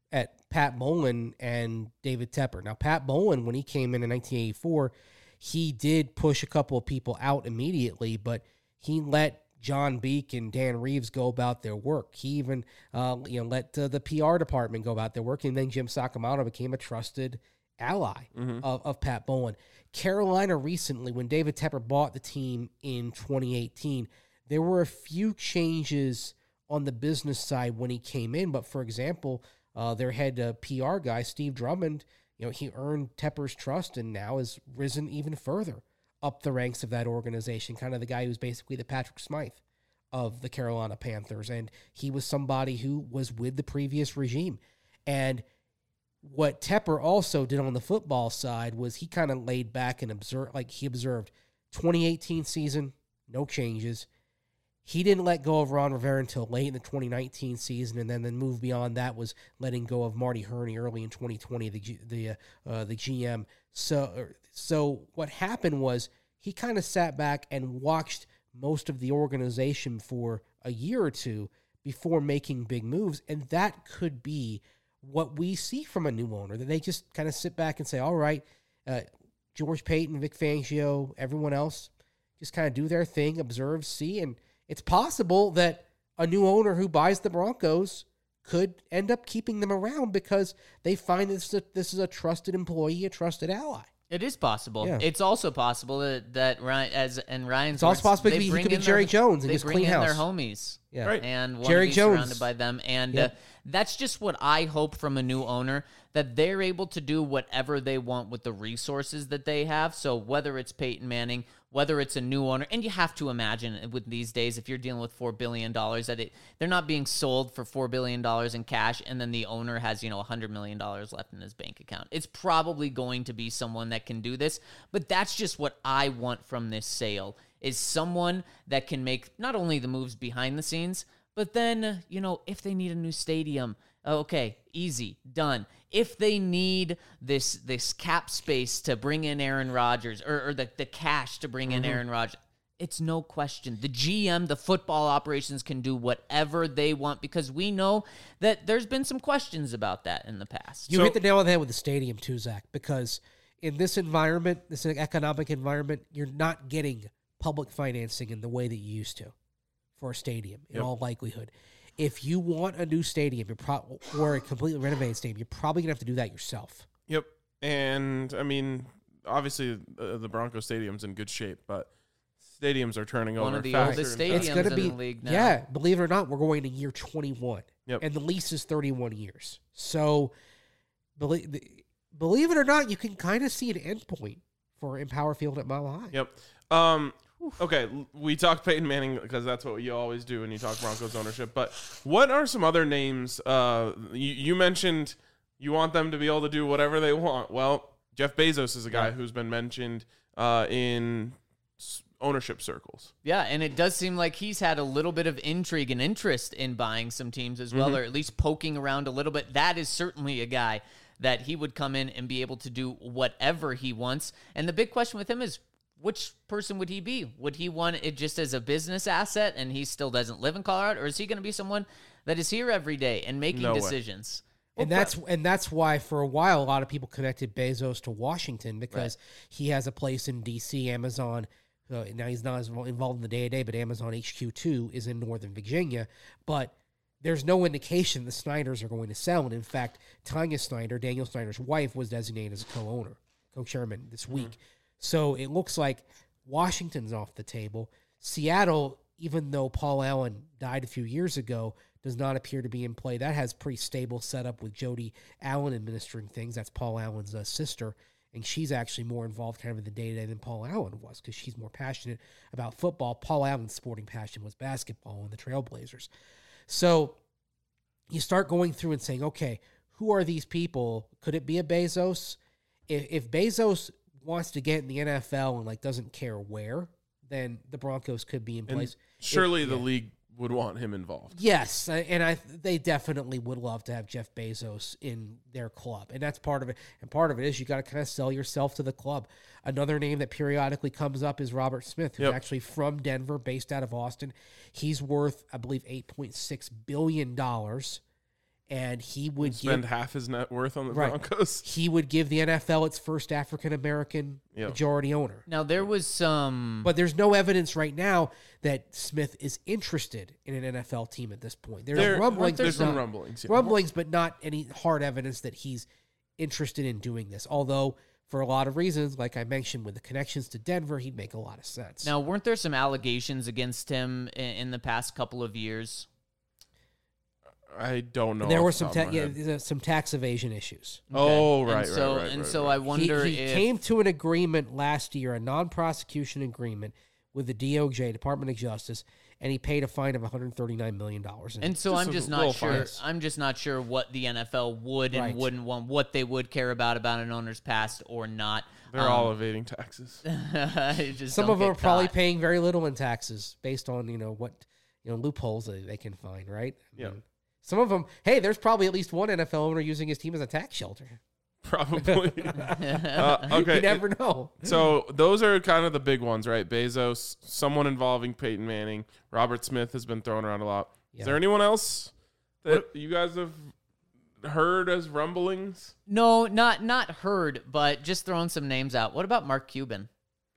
at Pat Bowlen and David Tepper. Now, Pat Bowlen, when he came in 1984, he did push a couple of people out immediately, but he let John Beek and Dan Reeves go about their work. He even let the PR department go about their work, and then Jim Sakamoto became a trusted ally of Pat Bowlen. Carolina recently, when David Tepper bought the team in 2018, there were a few changes on the business side when he came in. But for example, their head PR guy, Steve Drummond, he earned Tepper's trust and now has risen even further up the ranks of that organization, kind of the guy who's basically the Patrick Smythe of the Carolina Panthers. And he was somebody who was with the previous regime. And what Tepper also did on the football side was he kind of laid back and observed 2018 season, no changes. He didn't let go of Ron Rivera until late in the 2019 season, and then the move beyond that was letting go of Marty Herney early in 2020, the GM. So what happened was he kind of sat back and watched most of the organization for a year or two before making big moves, and that could be what we see from a new owner, that they just kind of sit back and say, all right, George Payton, Vic Fangio, everyone else, just kind of do their thing, observe, see, and it's possible that a new owner who buys the Broncos could end up keeping them around because they find this is a trusted employee, a trusted ally. It is possible. Yeah. It's also possible that Ryan's. It's also possible he could be Jerry Jones and they just bring clean in house. their homies. Yeah. Right. And want Jerry to be Jones. surrounded by them. And Yep. that's just what I hope from a new owner, that they're able to do whatever they want with the resources that they have. So whether it's Peyton Manning, whether it's a new owner, and you have to imagine with these days, if you're dealing with $4 billion, that they're not being sold for $4 billion in cash, and then the owner has, $100 million left in his bank account. It's probably going to be someone that can do this, but that's just what I want from this sale, is someone that can make not only the moves behind the scenes, but then, if they need a new stadium, okay, easy, done. If they need this cap space to bring in Aaron Rodgers, or the cash to bring in Aaron Rodgers, it's no question. The GM, the football operations, can do whatever they want, because we know that there's been some questions about that in the past. You hit the nail on the head with the stadium too, Zach, because in this environment, this economic environment, you're not getting public financing in the way that you used to for a stadium, in all likelihood. If you want a new stadium, or a completely renovated stadium, you're probably going to have to do that yourself. Yep. And, I mean, obviously the Broncos Stadium's in good shape, but stadiums are turning One over of the faster oldest and faster. stadiums It's going to in be, the league now. yeah, believe it or not, we're going to year 21. Yep. And the lease is 31 years. So, believe it or not, you can kind of see an endpoint for Empower Field at Mile High. Yep. Okay, we talked Peyton Manning because that's what you always do when you talk Broncos ownership. But what are some other names? You mentioned you want them to be able to do whatever they want. Well, Jeff Bezos is a guy who's been mentioned in ownership circles. Yeah, and it does seem like he's had a little bit of intrigue and interest in buying some teams as well, or at least poking around a little bit. That is certainly a guy that he would come in and be able to do whatever he wants. And the big question with him is, which person would he be? Would he want it just as a business asset and he still doesn't live in Colorado? Or is he going to be someone that is here every day and making decisions? And that's why for a while a lot of people connected Bezos to Washington, because he has a place in D.C. Amazon. Now he's not as involved in the day-to-day, but Amazon HQ2 is in Northern Virginia. But there's no indication the Snyders are going to sell. And in fact, Tanya Snyder, Daniel Snyder's wife, was designated as a co-owner, co-chairman this week. So it looks like Washington's off the table. Seattle, even though Paul Allen died a few years ago, does not appear to be in play. That has pretty stable setup with Jody Allen administering things. That's Paul Allen's sister, and she's actually more involved kind of in the day-to-day than Paul Allen was, because she's more passionate about football. Paul Allen's sporting passion was basketball and the Trailblazers. So you start going through and saying, okay, who are these people? Could it be a Bezos? If Bezos wants to get in the NFL and doesn't care where, then the Broncos could be in place. Surely the league would want him involved. Yes, and they definitely would love to have Jeff Bezos in their club, and that's part of it. And part of it is you got to kind of sell yourself to the club. Another name that periodically comes up is Robert Smith, who's actually from Denver, based out of Austin. He's worth, I believe, $8.6 billion. And he would spend half his net worth on the Broncos. He would give the NFL its first African-American majority owner. Now, there was some... But there's no evidence right now that Smith is interested in an NFL team at this point. There's rumblings. There's some rumblings. Yeah. Rumblings, but not any hard evidence that he's interested in doing this. Although, for a lot of reasons, like I mentioned, with the connections to Denver, he'd make a lot of sense. Now, weren't there some allegations against him in the past couple of years? I don't know. And there were off the some top of my head. there's some tax evasion issues. Oh, Okay. right, And so right. I wonder he if came to an agreement last year, a non-prosecution agreement with the DOJ, Department of Justice, and he paid a fine of $139 million. And so Just I'm a just little not sure. fines. I'm just not sure what the NFL would and Right. wouldn't want, what they would care about an owner's past or not. They're all evading taxes. Just Some don't of them get are probably caught. paying very little in taxes based on what loopholes that they can find, right? I Yeah. mean, some of them, hey, there's probably at least one NFL owner using his team as a tax shelter. Probably. Okay. You never know. So those are kind of the big ones, right? Bezos, someone involving Peyton Manning. Robert Smith has been thrown around a lot. Yeah. Is there anyone else that you guys have heard as rumblings? No, not heard, but just throwing some names out. What about Mark Cuban?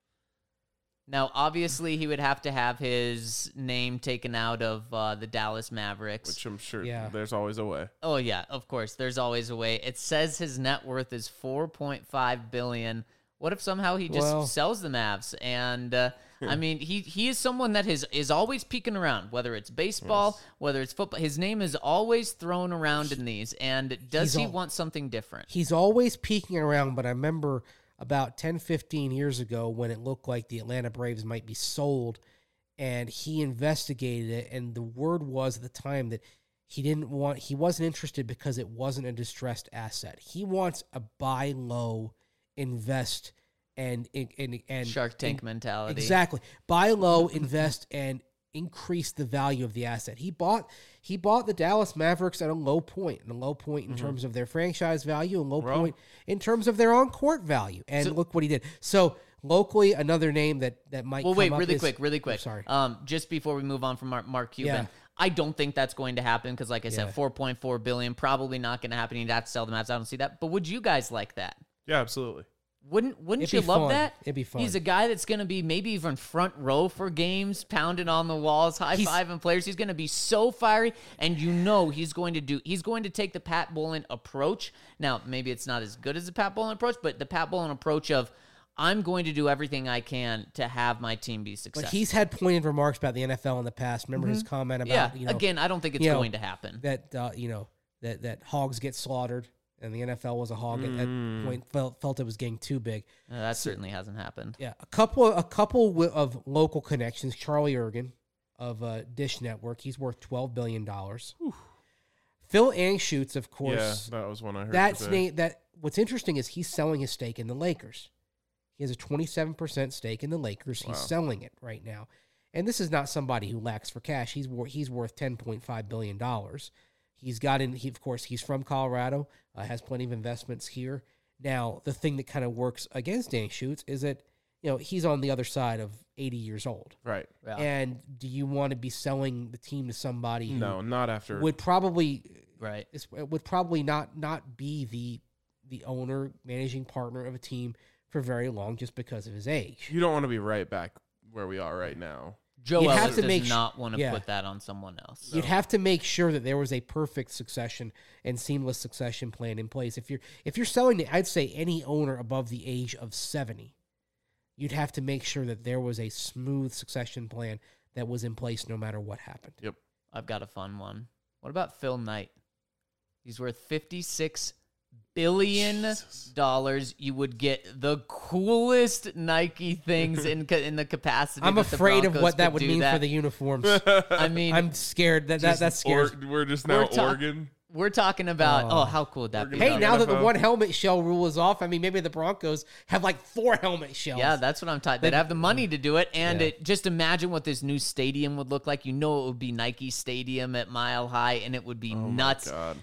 Now, obviously, he would have to have his name taken out of the Dallas Mavericks. Which I'm sure Yeah. there's always a way. Oh yeah, of course. There's always a way. It says his net worth is $4.5 billion. What if somehow he just Well- sells the Mavs? And I mean, he is someone that is always peeking around, whether it's baseball, whether it's football. His name is always thrown around in these. And does He's he al- want something different? He's always peeking around, but I remember about 10, 15 years ago when it looked like the Atlanta Braves might be sold, and he investigated it, and the word was at the time that he wasn't interested because it wasn't a distressed asset. He wants a buy low, invest, and Shark Tank mentality. Exactly. Buy low, invest, and increase the value of the asset. He bought the Dallas Mavericks at a low point, in terms of their franchise value, and low point in terms of their on-court value. And look what he did. So locally, another name that might Well, come wait, up really is- quick. sorry. Just before we move on from Mark Cuban, Yeah. I don't think that's going to happen because, like I said, Yeah. $4.4 billion probably not going to happen. He'd have to sell the Mavs. I don't see that. But would you guys like that? Yeah, absolutely. Wouldn't It'd you be love fun. that? It'd be fun. He's a guy that's going to be maybe even front row for games, pounding on the walls, high-fiving players. He's going to be so fiery, and he's going to take the Pat Bowlen approach. Now, maybe it's not as good as the Pat Bowlen approach, but the Pat Bowlen approach of I'm going to do everything I can to have my team be successful. But he's had pointed remarks about the NFL in the past. Remember his comment about again, I don't think it's going to happen. that that hogs get slaughtered, and the NFL was a hog at that point. Felt it was getting too big. That certainly hasn't happened. Yeah, a couple of local connections. Charlie Ergen of Dish Network, he's worth $12 billion. Phil Anschutz, of course. Yeah, that was one I heard. That's today. what's interesting is he's selling his stake in the Lakers. He has a 27% stake in the Lakers. He's selling it right now, and this is not somebody who lacks for cash. He's worth $10.5 billion. He's from Colorado, has plenty of investments here. Now, the thing that kind of works against Anschutz is that he's on the other side of 80 years old. Right. Yeah. And do you want to be selling the team to somebody who No, not after. would probably Right. would probably not be the owner, managing partner of a team for very long just because of his age? You don't want to be right back where we are right now. Joe You'd have Ellis to does make not want to yeah. put that on someone else. You'd have to make sure that there was a perfect succession and seamless succession plan in place. If you're selling to, I'd say any owner above the age of 70, you'd have to make sure that there was a smooth succession plan that was in place no matter what happened. Yep. I've got a fun one. What about Phil Knight? He's worth $56 billion. You would get the coolest Nike things in the capacity. I'm that the afraid of Broncos what that could would do mean that. for the uniforms. I mean, I'm scared. That's scary. We're just now We're Oregon. we're talking about. Oh, how cool would that be? We're gonna Hey, be now that the NFL. one helmet shell rule is off, I mean, maybe the Broncos have like 4 helmet shells. Yeah, that's what I'm talking. They'd have the money to do it, and Yeah. just imagine what this new stadium would look like. It would be Nike Stadium at Mile High, and it would be nuts. God.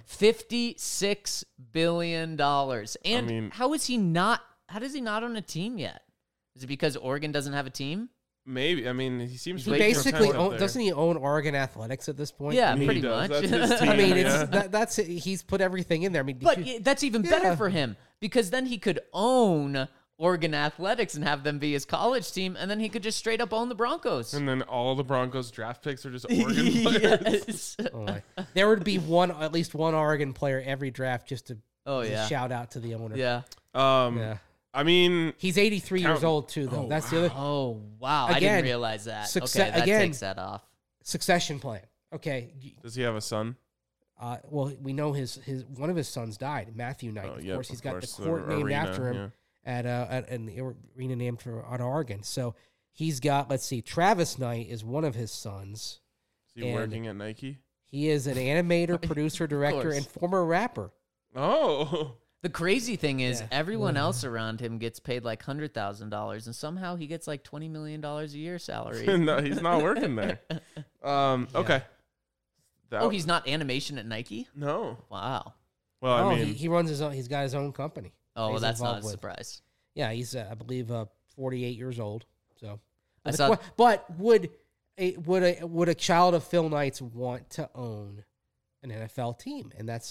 $56 billion. And mean- how is he not? How does he not own a team yet? Is it because Oregon doesn't have a team? Maybe. I mean, he seems He to basically content there. doesn't he own Oregon Athletics at this point? Yeah, I mean, pretty he does. much. That's his team. I mean, yeah. that's he's put everything in there. I mean, But that's even better Yeah. for him because then he could own Oregon Athletics and have them be his college team, and then he could just straight up own the Broncos. And then all the Broncos draft picks are just Oregon players. Yes. oh my. There would be at least one Oregon player every draft just to Oh to yeah. shout out to the owner. Yeah. Yeah. I mean, He's 83 years Count- old too, though. That's the other Oh wow! I Again, didn't realize that. succe- Okay, that again- takes that off. succession plan. Okay, does he have a son? Well, we know his one of his sons died, Matthew Knight. Of course, he's got the court named after him at an arena named for at Oregon. So he's got, let's see, Travis Knight is one of his sons. Is he working at Nike? He is an animator, producer, director, and former rapper. Oh. The crazy thing is, everyone else around him gets paid like $100,000, and somehow he gets like $20 million a year salary. No, he's not working there. Okay. He's not animation at Nike? No. Wow. Well, I mean, he runs his own. He's got his own company. Oh, well, that's not a involved with. surprise. Yeah, he's I believe 48 years old. So, I saw- but would a child of Phil Knight's want to own an NFL team? And that's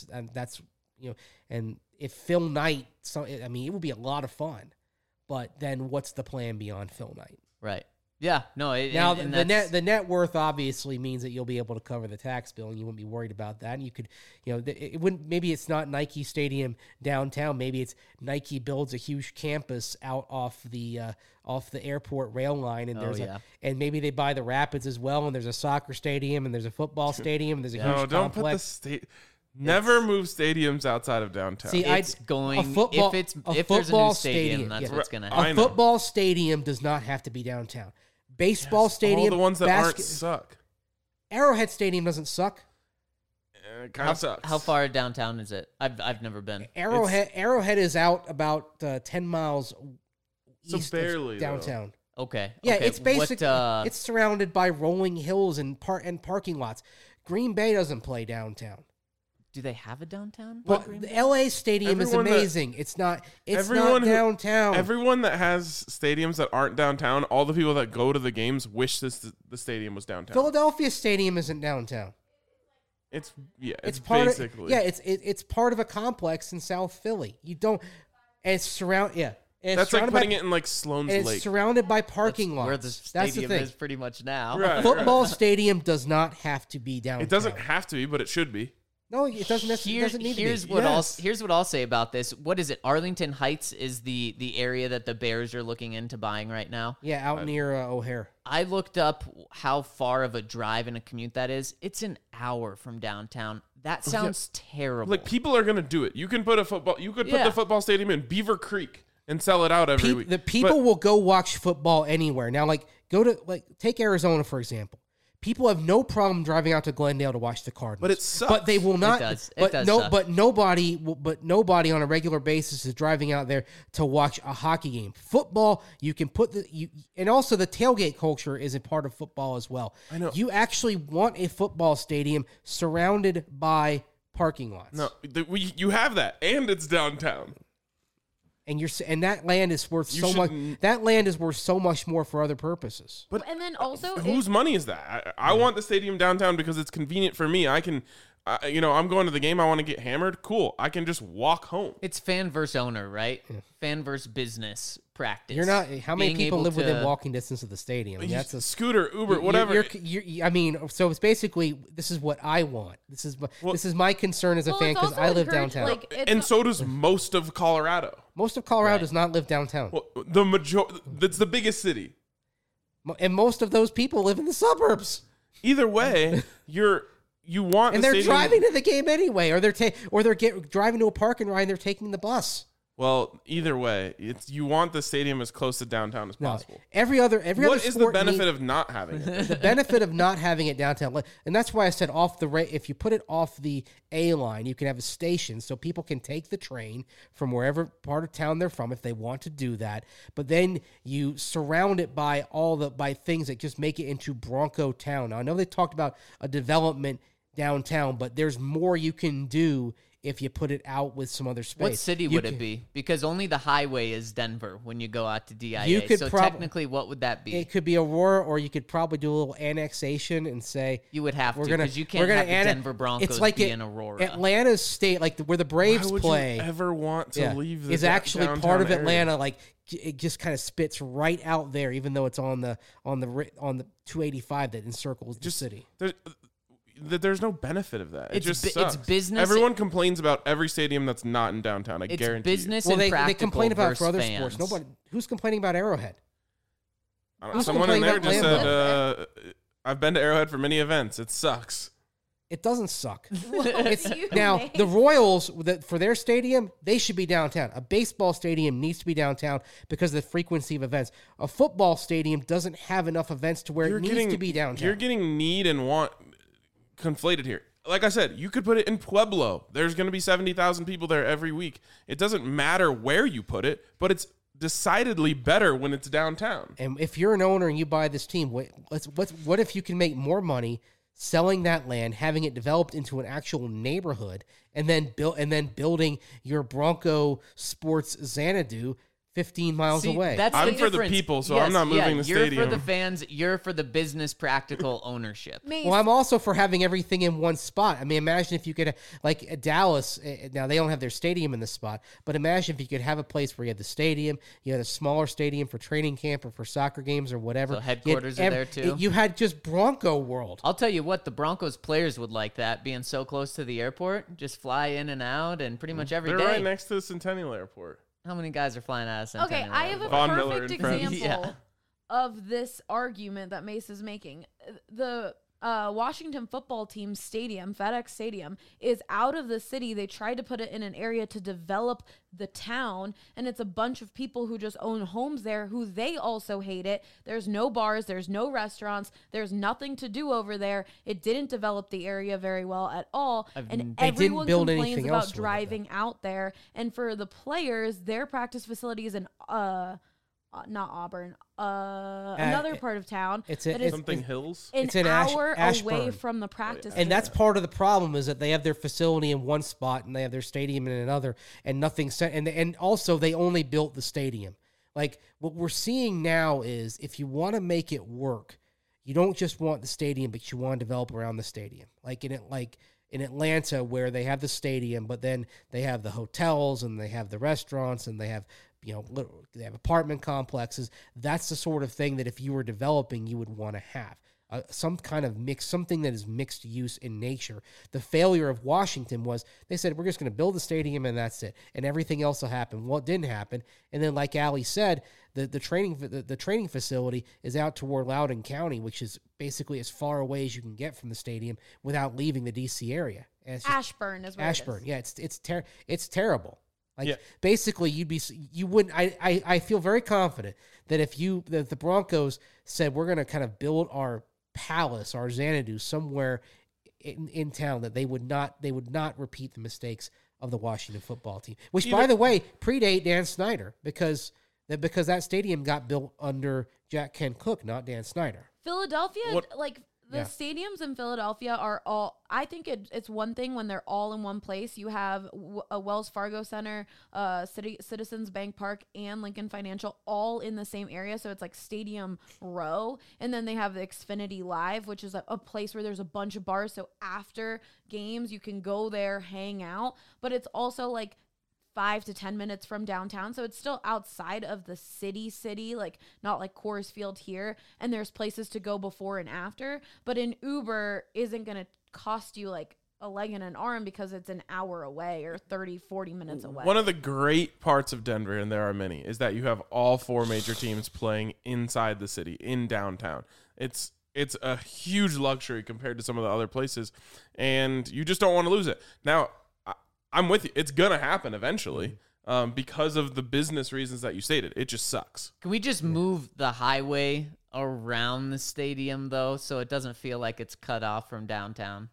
and if Phil Knight, I mean, it would be a lot of fun. But then, what's the plan beyond Phil Knight? Right. Yeah. No. Now the net worth obviously means that you'll be able to cover the tax bill, and you wouldn't be worried about that. And you could, it wouldn't. Maybe it's not Nike Stadium downtown. Maybe it's Nike builds a huge campus out off the airport rail line, and and maybe they buy the Rapids as well. And there's a soccer stadium, and there's a football stadium, and there's a huge don't complex. put the state. Never move stadiums outside of downtown. See, if there's a new stadium, that's what's going to happen. A football stadium does not have to be downtown. Baseball stadium, all the ones that aren't suck. Arrowhead Stadium doesn't suck. It kind of sucks. How far downtown is it? I've never been. Arrowhead is out about 10 miles east barely, of downtown. Okay. Yeah, okay. it's basically it's surrounded by rolling hills and parking lots. Green Bay doesn't play downtown. Do they have a downtown? Well, the LA Stadium is amazing. It's not downtown. Everyone that has stadiums that aren't downtown, all the people that go to the games wish the stadium was downtown. Philadelphia Stadium isn't downtown. It's basically it's part of a complex in South Philly. You don't, and it's surrounded. That's like putting it in like Sloan's Lake. It's surrounded by parking lots. Where the stadium is pretty much now. A football stadium does not have to be downtown. It doesn't have to be, but it should be. No, it doesn't necessarily. Doesn't need to be. Here's what I'll say about this. What is it? Arlington Heights is the area that the Bears are looking into buying right now. Yeah, out near O'Hare. I looked up how far of a drive and a commute that is. It's an hour from downtown. That sounds terrible. Like, people are gonna do it. You can put the football stadium in Beaver Creek and sell it out every week. The people will go watch football anywhere. Now, take Arizona for example. People have no problem driving out to Glendale to watch the Cardinals, but it sucks. But they will not. It does suck. But nobody on a regular basis is driving out there to watch a hockey game. Football, you can and also the tailgate culture is a part of football as well. I know. You actually want a football stadium surrounded by parking lots. No, you have that, and it's downtown. And that land is worth so much. That land is worth so much more for other purposes. But and then also, whose money is that? I want the stadium downtown because it's convenient for me. I can, I'm going to the game. I want to get hammered. Cool. I can just walk home. It's fan versus owner, right? Yeah. Fan versus business practice. You're not. How many people live within walking distance of the stadium? That's a scooter, Uber, whatever. So it's basically this is what I want. This is my concern as a fan because I live downtown, and so does most of Colorado. Most of Colorado does not live downtown. Well, that's the biggest city, and most of those people live in the suburbs. Either way, you want, and they're driving to the game anyway, or they're driving to a park and ride. And they're taking the bus. Well, either way, you want the stadium as close to downtown as possible. What is the benefit of not having it? The benefit of not having it downtown, and that's why I said if you put it off the A line, you can have a station so people can take the train from wherever part of town they're from if they want to do that. But then you surround it by by things that just make it into Bronco Town. Now, I know they talked about a development downtown, but there's more you can do if you put it out with some other space. What city would it be? Because only the highway is Denver when you go out to DIA. Technically, what would that be? It could be Aurora, or you could probably do a little annexation and say you would have to because you can't have the Denver Broncos be in Aurora. Atlanta's state, like where the Braves play. You ever want to leave? Is actually part of area. Atlanta. Like it just kind of spits right out there, even though it's on the 285 that encircles the city. There's no benefit of that. It just sucks. It's business. Everyone complains about every stadium that's not in downtown. I guarantee business you. and they complain about it for other fans. sports. Nobody who's complaining about Arrowhead. Someone in there just said, "I've been to Arrowhead for many events. It sucks." It doesn't suck. It's Now, the Royals, for their stadium, they should be downtown. A baseball stadium needs to be downtown because of the frequency of events. A football stadium doesn't have enough events to where it needs to be downtown. You're getting need and want conflated here. Like I said, you could put it in Pueblo. There's going to be 70,000 people there every week. It doesn't matter where you put it, but it's decidedly better when it's downtown. And if you're an owner and you buy this team, what if you can make more money selling that land, having it developed into an actual neighborhood, and then building your Bronco Sports Xanadu 15 miles away? That's I'm the for the difference. people, so I'm not moving the stadium. You're for the fans. You're for the business practical ownership. Well, I'm also for having everything in one spot. I mean, imagine if you could, like Dallas, now they don't have their stadium in the spot, but imagine if you could have a place where you had the stadium, you had a smaller stadium for training camp or for soccer games or whatever. So headquarters are there too? You had just Bronco World. I'll tell you what, the Broncos players would like that, being so close to the airport. Just fly in and out and pretty much every They're day. right next to the Centennial Airport. How many guys are flying out of Centennial? Okay, I have a Airport? Von Miller perfect and friends. example Yeah. of this argument that Mace is making. The Washington football team's stadium, FedEx Stadium, is out of the city. They tried to put it in an area to develop the town, and it's a bunch of people who just own homes there who they also hate it. There's no bars, there's no restaurants, there's nothing to do over there. It didn't develop the area very well at all, and They didn't everyone build complains anything about else with it, driving out there. And for the players, their practice facility is in not Auburn, another part of town. it's that is Something Hills. an it's in hour away Ashburn. from the practice. And that's field. part of the problem is that they have their facility in one spot and they have their stadium in another, and nothing set. And also they only built the stadium. Like what we're seeing now is if you want to make it work, you don't just want the stadium, but you want to develop around the stadium. Like in Atlanta, where they have the stadium, but then they have the hotels and they have the restaurants and they have they have apartment complexes. That's the sort of thing that if you were developing, you would want to have. Some kind of mix, something that is mixed use in nature. The failure of Washington was they said, we're just going to build the stadium and that's it. And everything else will happen. Well, it didn't happen. And then like Ali said, the training facility is out toward Loudoun County, which is basically as far away as you can get from the stadium without leaving the DC area. And it's just, Ashburn is where Ashburn. It is. Yeah, it's terrible. Like Yeah. basically you wouldn't, I feel very confident that if the Broncos said, we're going to kind of build our palace, our Xanadu somewhere in town, that they would not repeat the mistakes of the Washington football team, which by the way, predate Dan Snyder because that stadium got built under Jack Kent Cook, not Dan Snyder. Philadelphia, What- the stadiums in Philadelphia are all, I think it's one thing when they're all in one place. You have a Wells Fargo Center, Citizens Bank Park, and Lincoln Financial all in the same area. So it's like Stadium Row. And then they have the Xfinity Live, which is a place where there's a bunch of bars. So after games, you can go there, hang out. But it's also like 5 to 10 minutes from downtown. So it's still outside of the city, like not like Coors Field here. And there's places to go before and after. But an Uber isn't going to cost you like a leg and an arm because it's an hour away or 30, 40 minutes away. One of the great parts of Denver, and there are many, is that you have all four major teams playing inside the city, in downtown. It's a huge luxury compared to some of the other places, and you just don't want to lose it. Now, I'm with you. It's going to happen eventually because of the business reasons that you stated. It just sucks. Can we just move the highway around the stadium, though, so it doesn't feel like it's cut off from downtown?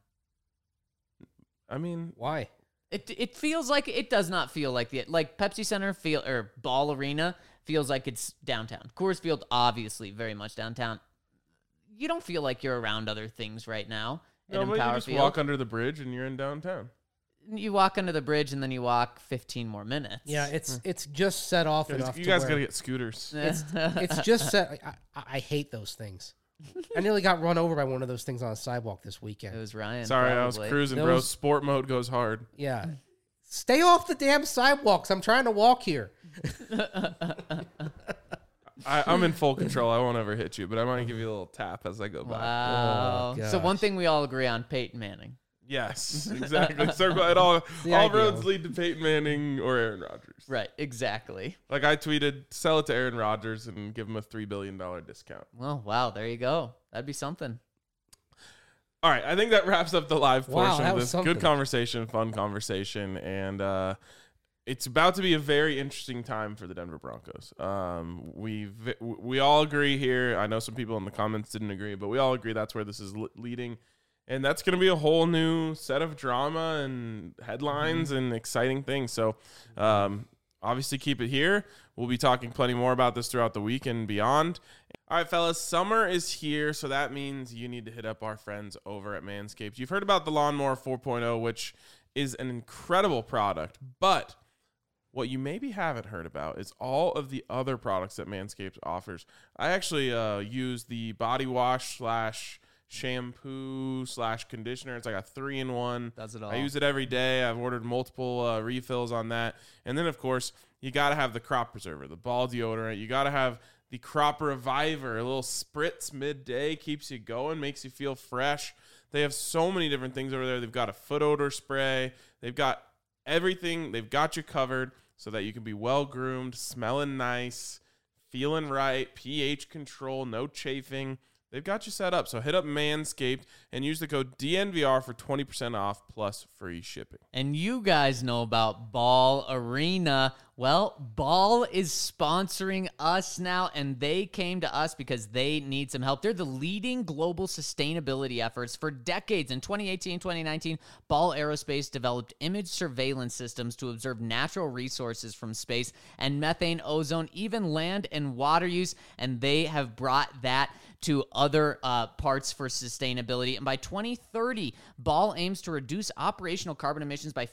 I mean, Why? It feels like it does not feel like like Pepsi Center or Ball Arena feels like it's downtown. Coors Field obviously very much downtown. You don't feel like you're around other things right now. no, in but you Empower just Field. walk under the bridge and you're in downtown. You walk under the bridge and then you walk 15 more minutes. Yeah, it's just set off enough. You to guys where got to get scooters. it's just set. I hate those things. I nearly got run over by one of those things on a sidewalk this It weekend. was Ryan. Sorry, I was probably. cruising, Those- bro. Sport mode goes hard. Yeah. Stay off the damn sidewalks. I'm trying to walk here. I'm in full control. I won't ever hit you, but I might give you a little tap as I go by. Wow. Oh, So one gosh. thing we all agree on, Peyton Manning. Yes, exactly. Circle it all. the All ideal. roads lead to Peyton Manning or Aaron Rodgers. Right, exactly. Like I tweeted, sell it to Aaron Rodgers and give him a $3 billion discount. Well, wow, there you go. That'd be something. All right, I think that wraps up the live Wow, portion that of was this. something. Good conversation, fun conversation, and it's about to be a very interesting time for the Denver Broncos. We all agree here. I know some people in the comments didn't agree, but we all agree that's where this is leading, and that's going to be a whole new set of drama and headlines and exciting things. So, obviously, keep it here. We'll be talking plenty more about this throughout the week and beyond. All right, fellas, summer is here, so that means you need to hit up our friends over at Manscaped. You've heard about the Lawnmower 4.0, which is an incredible product, but what you maybe haven't heard about is all of the other products that Manscaped offers. I actually use the body wash / shampoo / conditioner. It's like a 3-in-1. Does it all. I use it every day. I've ordered multiple refills on that. And then, of course, you got to have the crop preserver, the ball deodorant. You got to have the crop reviver, a little spritz midday, keeps you going, makes you feel fresh. They have so many different things over there. They've got a foot odor spray. They've got everything. They've got you covered so that you can be well-groomed, smelling nice, feeling right, pH control, no chafing. They've got you set up. So hit up Manscaped and use the code DNVR for 20% off plus free shipping. And you guys know about Ball Arena. Well, Ball is sponsoring us now, and they came to us because they need some help. They're the leading global sustainability efforts for decades. In 2018 and 2019, Ball Aerospace developed image surveillance systems to observe natural resources from space and methane, ozone, even land and water use, and they have brought that to other parts for sustainability. And by 2030, Ball aims to reduce operational carbon emissions by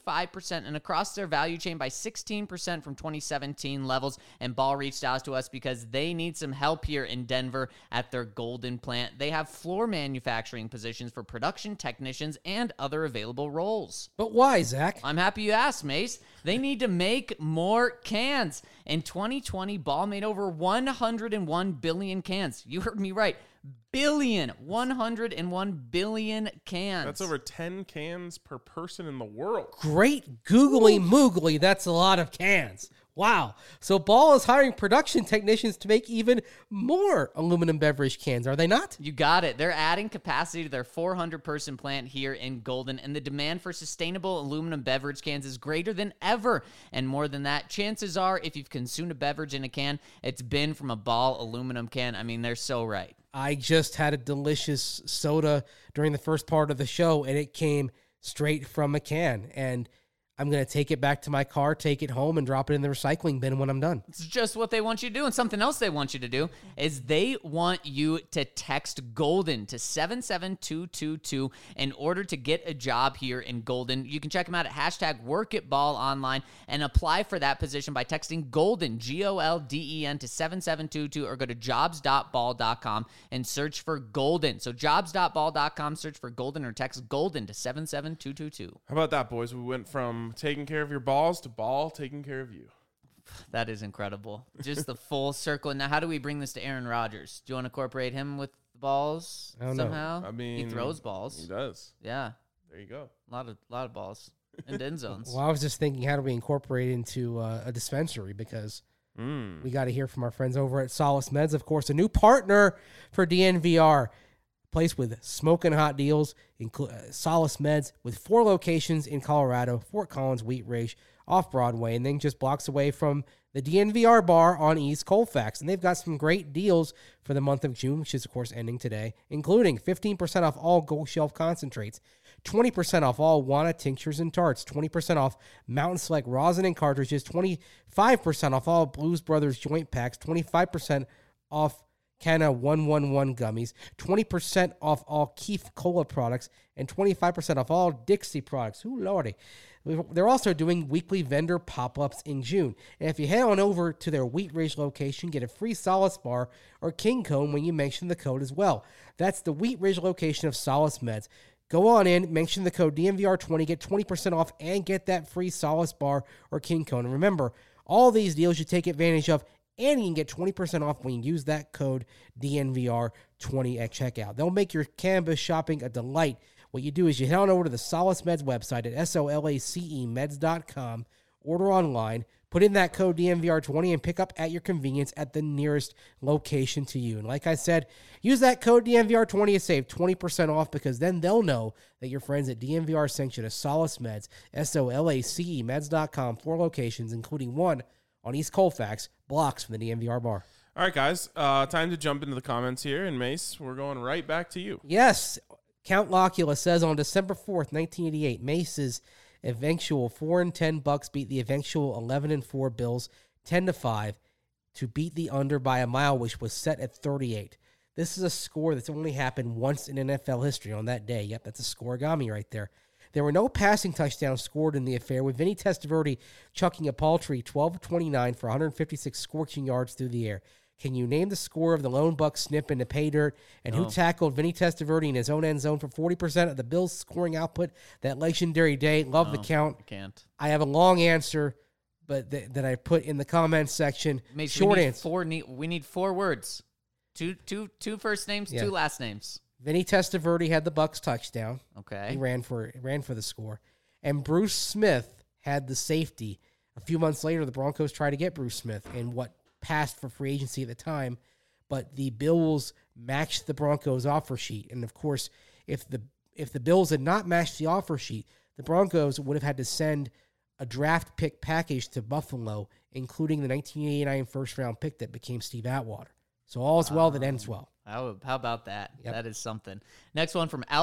55% and across their value chain by 16% from 2017 levels. And Ball reached out to us because they need some help here in Denver at their Golden plant. They have floor manufacturing positions for production technicians and other available roles. But why, Zach? I'm happy you asked, Mace. They need to make more cans. In 2020, Ball made over 101 billion cans. You heard me right. 101 billion cans. That's over 10 cans per person in the world. Great googly moogly. That's a lot of cans. Wow. So Ball is hiring production technicians to make even more aluminum beverage cans, are they not? You got it. They're adding capacity to their 400-person plant here in Golden, and the demand for sustainable aluminum beverage cans is greater than ever. And more than that, chances are, if you've consumed a beverage in a can, it's been from a Ball aluminum can. I mean, they're so right. I just had a delicious soda during the first part of the show, and it came straight from a can. And I'm going to take it back to my car, take it home, and drop it in the recycling bin when I'm done. It's just what they want you to do. And something else they want you to do is they want you to text Golden to 77222 in order to get a job here in Golden. You can check them out at #WorkAtBall online and apply for that position by texting Golden, Golden, to 7722 or go to jobs.ball.com and search for Golden. So jobs.ball.com, search for Golden or text Golden to 77222. How about that, boys? We went from taking care of your balls to Ball taking care of you. That is incredible. Just the full circle. Now, how do we bring this to Aaron Rodgers? Do you want to incorporate him with the balls I don't know. somehow? I mean, he throws balls. He does. Yeah, There you go. a lot of balls and end zones. Well, I was just thinking, how do we incorporate it into a dispensary? Because we got to hear from our friends over at Solace Meds, of course, a new partner for DNVR. Place with smoking hot deals, Solace Meds, with 4 locations in Colorado, Fort Collins, Wheat Ridge, off Broadway, and then just blocks away from the DNVR bar on East Colfax. And they've got some great deals for the month of June, which is, of course, ending today, including 15% off all Gold Shelf concentrates, 20% off all Wana tinctures and tarts, 20% off Mountain Select rosin and cartridges, 25% off all Blues Brothers joint packs, 25% off Canna 111 gummies, 20% off all Keef Cola products, and 25% off all Dixie products. Ooh, lordy. They're also doing weekly vendor pop-ups in June. And if you head on over to their Wheat Ridge location, get a free Solace bar or King Cone when you mention the code as well. That's the Wheat Ridge location of Solace Meds. Go on in, mention the code DNVR20, get 20% off, and get that free Solace bar or King Cone. And remember, all these deals you take advantage of, and you can get 20% off when you use that code DNVR20 at checkout. They'll make your cannabis shopping a delight. What you do is you head on over to the Solace Meds website at SOLACEmeds.com, order online, Put in that code DMVR20 and pick up at your convenience at the nearest location to you. And like I said, use that code DMVR20 to save 20% off, because then they'll know that your friends at DMVR sent you to Solace Meds, SOLACE meds.com, 4 locations, including one on East Colfax, blocks from the DMVR bar. All right, guys, time to jump into the comments here. And Mace, we're going right back to you. Yes, Count Locula says on December 4th, 1988, Mace's eventual 4-10 Bucks beat the eventual 11-4 Bills 10-5 to beat the under by a mile, which was set at 38. This is a score that's only happened once in NFL history on that day. Yep, that's a scoregami right there. There were no passing touchdowns scored in the affair, with Vinny Testaverde chucking a paltry 12-29 for 156 scorching yards through the air. Can you name the score of the lone buck snip in the pay dirt, and who tackled Vinny Testaverde in his own end zone for 40% of the Bills' scoring output that legendary day? Love the count. I can't. I have a long answer, but that I put in the comments section. Mace, Short answer. We need 4 words. Two first names, 2 last names. Vinny Testaverde had the Bucks touchdown. Okay. He ran for the score. And Bruce Smith had the safety. A few months later, the Broncos tried to get Bruce Smith in what passed for free agency at the time, but the Bills matched the Broncos offer sheet. And of course, if the Bills had not matched the offer sheet, the Broncos would have had to send a draft pick package to Buffalo, including the 1989 first round pick that became Steve Atwater. So all's well that ends well. How about that? Yep. That is something. Next one from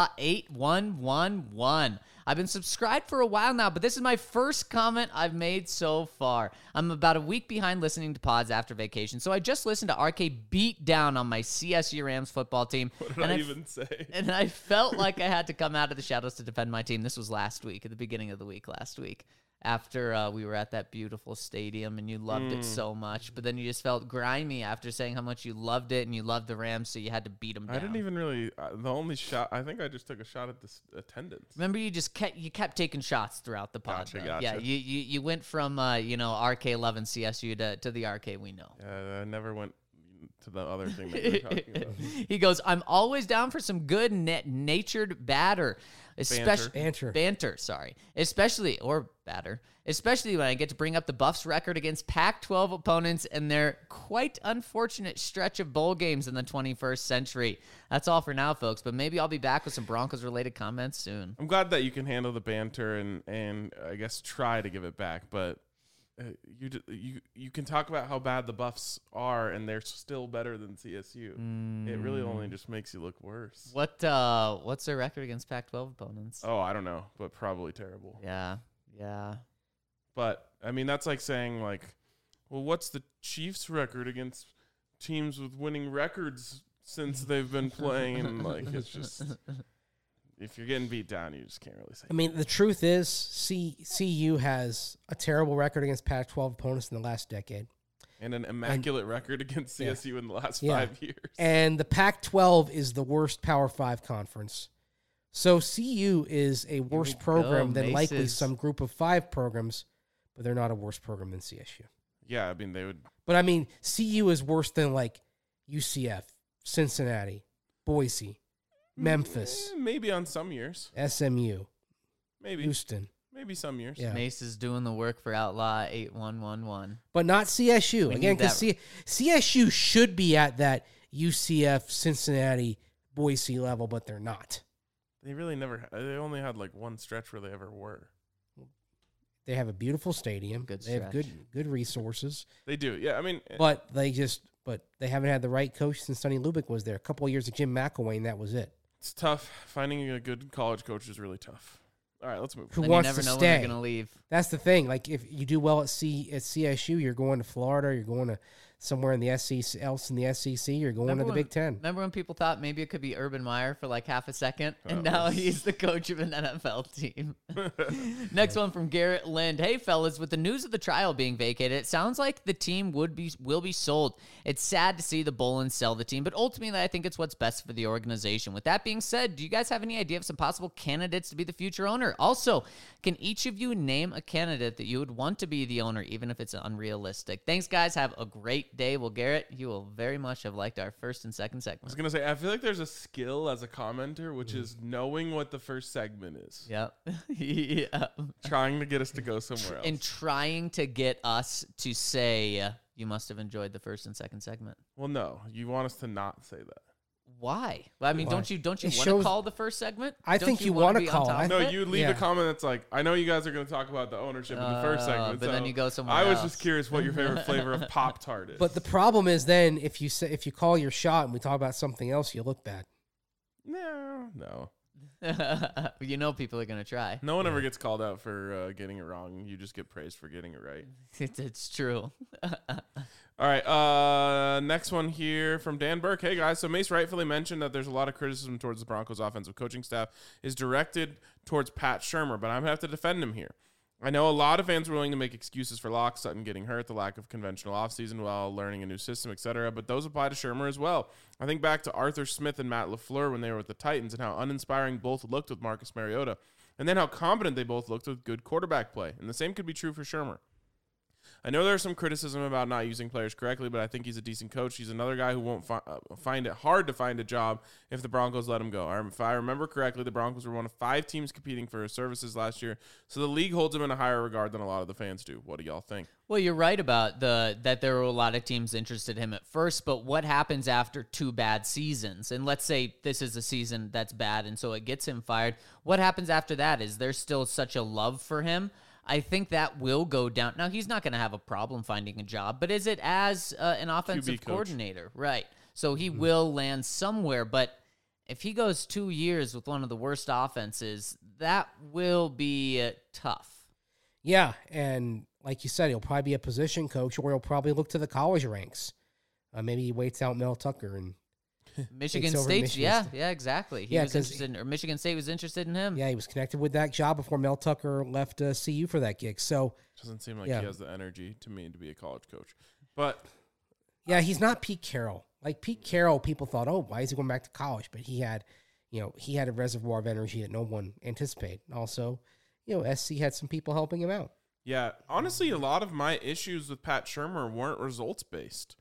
Outlaw8111. I've been subscribed for a while now, but this is my first comment I've made so far. I'm about a week behind listening to pods after vacation, so I just listened to RK beat down on my CSU Rams football team. What did I even say? And I felt like I had to come out of the shadows to defend my team. This was last week, at the beginning of the week last week, after we were at that beautiful stadium and you loved it so much. But then you just felt grimy after saying how much you loved it and you loved the Rams, so you had to beat them down. I didn't even really. The only shot, I think I just took a shot at this attendance. Remember, you kept taking shots throughout the pod. Gotcha. Yeah, you went from RK11 CSU to the RK we know. I never went to the other thing that you were talking about. He goes, I'm always down for some good natured banter. Banter, sorry. Especially when I get to bring up the Buffs' record against Pac-12 opponents and their quite unfortunate stretch of bowl games in the 21st century. That's all for now, folks, but maybe I'll be back with some Broncos-related comments soon. I'm glad that you can handle the banter and I guess try to give it back, but you can talk about how bad the Buffs are, and they're still better than CSU. It really only just makes you look worse. What's their record against Pac-12 opponents? Oh, I don't know, but probably terrible. Yeah. But I mean, that's like saying well, what's the Chiefs' record against teams with winning records since they've been playing? And it's just, if you're getting beat down, you just can't really say. I mean, the truth is, CU has a terrible record against Pac-12 opponents in the last decade. And an immaculate record against CSU in the last 5 years. And the Pac-12 is the worst Power 5 conference. So CU is a worse program than likely some group of 5 programs, but they're not a worse program than CSU. Yeah, I mean, they would. But I mean, CU is worse than UCF, Cincinnati, Boise, Memphis. Maybe on some years. SMU. Maybe. Houston. Maybe some years. Yeah. Mace is doing the work for Outlaw 8111. But not CSU. We Again, need because CSU should be at that UCF, Cincinnati, Boise level, but they're not. They really never. They only had one stretch where they ever were. They have a beautiful stadium. They have good resources. They do. Yeah, I mean, but they haven't had the right coach since Sonny Lubick was there. A couple of years of Jim McElwain, that was it. It's tough. Finding a good college coach is really tough. All right, let's move. Who wants you never to know stay? When they're going to leave. That's the thing. If you do well at CSU, you're going to Florida. You're going to somewhere in the SEC, You're going to the Big Ten. Remember when people thought maybe it could be Urban Meyer for half a second, and now he's the coach of an NFL team. Next one from Garrett Lind. Hey, fellas, with the news of the trial being vacated, it sounds like the team will be sold. It's sad to see the Bolins sell the team, but ultimately I think it's what's best for the organization. With that being said, do you guys have any idea of some possible candidates to be the future owner? Also, can each of you name a candidate that you would want to be the owner, even if it's unrealistic? Thanks, guys. Have a great great day. Well, Garrett, you will very much have liked our first and second I was segment. gonna say, I feel like there's a skill as a commenter, which is knowing what the first segment is, Yep. Yeah. trying to get us to go somewhere else. And trying to get us to say, you must have enjoyed the first and second segment. Well, no, you want us to not say that. Why? Well, I mean, Why? don't you It want to shows- call the first segment? I Don't think you wanna wanna be on call it. top I- of No, it? you leave Yeah. a comment that's like, I know you guys are going to talk about the ownership in the first segment, but then so you go somewhere I was else. just curious what your favorite flavor of Pop Tart is. But the problem is then if you call your shot and we talk about something else, you look bad. no, You know people are going to try. no one ever gets called out for getting it wrong. You just get praised for getting it right. It's true. All right, next one here from Dan Burke. Hey guys, so Mace rightfully mentioned that there's a lot of criticism towards the Broncos offensive coaching staff is directed towards Pat Shurmur, but I'm gonna have to defend him here. I know a lot of fans are willing to make excuses for Locke, Sutton getting hurt, the lack of conventional offseason while learning a new system, etc., but those apply to Shurmur as well. I think back to Arthur Smith and Matt LaFleur when they were with the Titans and how uninspiring both looked with Marcus Mariota, and then how competent they both looked with good quarterback play, and the same could be true for Shurmur. I know there's some criticism about not using players correctly, but I think he's a decent coach. He's another guy who won't find it hard to find a job if the Broncos let him go. If I remember correctly, the Broncos were one of 5 teams competing for his services last year, so the league holds him in a higher regard than a lot of the fans do. What do y'all think? Well, you're right about that there were a lot of teams interested in him at first, but what happens after 2 bad seasons? And let's say this is a season that's bad, and so it gets him fired. What happens after that? Is there still such a love for him? I think that will go down. Now, he's not going to have a problem finding a job, but is it as an offensive coach. coordinator? Right. So he will land somewhere, but if he goes 2 years with one of the worst offenses, that will be tough. Yeah, and like you said, he'll probably be a position coach, or he'll probably look to the college ranks. Maybe he waits out Mel Tucker, and Michigan Takes over State, Michigan yeah, State. yeah, exactly. He Yeah, was 'cause- interested, or Michigan State was interested in him. yeah, he was connected with that job before Mel Tucker left CU for that gig. So Doesn't seem like Yeah. he has the energy to me to be a college coach. But yeah, he's not Pete Carroll. Like Pete Carroll, people thought, oh, why is he going back to college? But he had a reservoir of energy that no one anticipated. Also, SC had some people helping him out. yeah, honestly, a lot of my issues with Pat Shurmur weren't results based,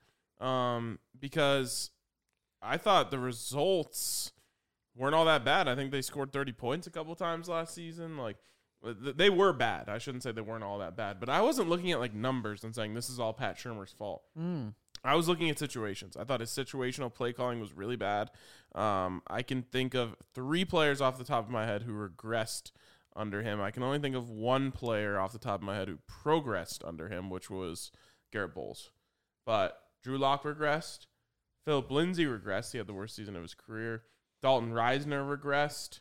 because I thought the results weren't all that bad. I think they scored 30 points a couple times last season. Like they were bad. I shouldn't say they weren't all that bad, but I wasn't looking at like numbers and saying this is all Pat Shurmur's fault. I was looking at situations. I thought his situational play calling was really bad. I can think of 3 players off the top of my head who regressed under him. I can only think of 1 player off the top of my head who progressed under him, which was Garrett Bowles. But Drew Lock regressed. Philip Lindsay regressed. He had the worst season of his career. Dalton Reisner regressed.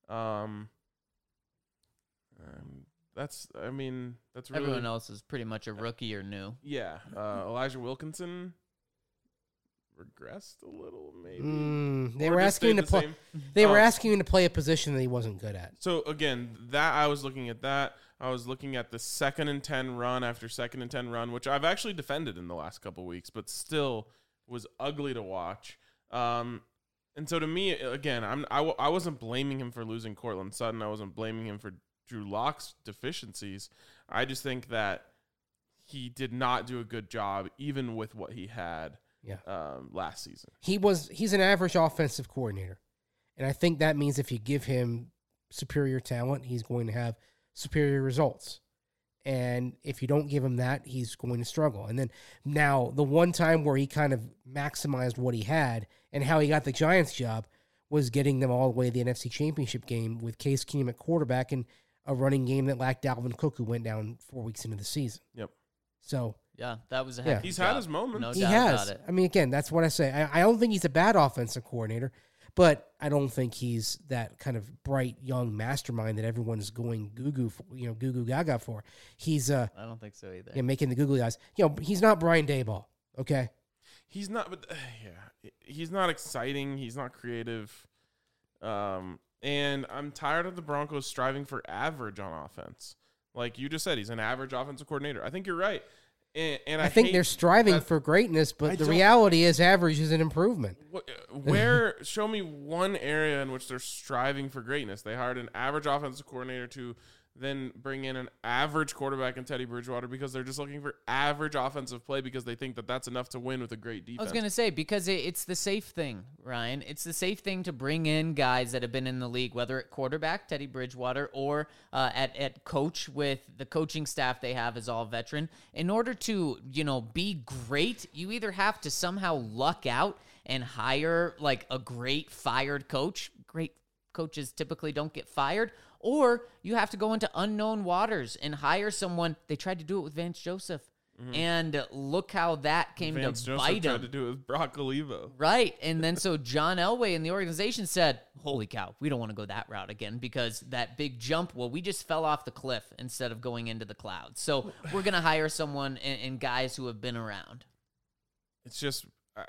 That's really Everyone else is pretty much a rookie or new. yeah. Elijah Wilkinson regressed a little, maybe. They Or were just asking him stayed to the play. same. They were Oh. asking him to play a position that he wasn't good at. So again, that I was looking at that. I was looking at the 2nd and 10 run after 2nd and 10 run, which I've actually defended in the last couple weeks, but still was ugly to watch. And so to me, again, I wasn't blaming him for losing Cortland Sutton. I wasn't blaming him for Drew Lock's deficiencies. I just think that he did not do a good job, even with what he had last season. He's an average offensive coordinator. And I think that means if you give him superior talent, he's going to have superior results. And if you don't give him that, he's going to struggle. And then now the one time where he kind of maximized what he had and how he got the Giants job was getting them all the way to the NFC Championship game with Case Keenum at quarterback and a running game that lacked Dalvin Cook, who went down 4 weeks into the season. Yep. So Yeah, that was a Yeah. heck of a He's had job. his moments. No he doubt has. about it. I mean, again, that's what I say. I don't think he's a bad offensive coordinator, but I don't think he's that kind of bright young mastermind that everyone's going goo goo gaga for. He's I don't think so either. making the googly eyes. He's not Brian Daboll. Okay. He's not, but he's not exciting. He's not creative. And I'm tired of the Broncos striving for average on offense. Like you just said, he's an average offensive coordinator. I think you're right. And I I think hate they're striving that- for greatness, but I the don't- reality is average is an improvement. Show me one area in which they're striving for greatness. They hired an average offensive coordinator to than bring in an average quarterback in Teddy Bridgewater because they're just looking for average offensive play because they think that that's enough to win with a great defense. I was going to say, because it's the safe thing, Ryan. It's the safe thing to bring in guys that have been in the league, whether at quarterback, Teddy Bridgewater, or at coach with the coaching staff they have is all veteran. In order to, be great, you either have to somehow luck out and hire like a great fired coach. Great coaches typically don't get fired. Or you have to go into unknown waters and hire someone. They tried to do it with Vance Joseph. And look how that came Vance to Joseph bite him. tried to do it with Brock Olivo. Right. And then so John Elway and the organization said, holy cow, we don't want to go that route again because that big jump, we just fell off the cliff instead of going into the clouds. So we're going to hire someone and guys who have been around. It's just,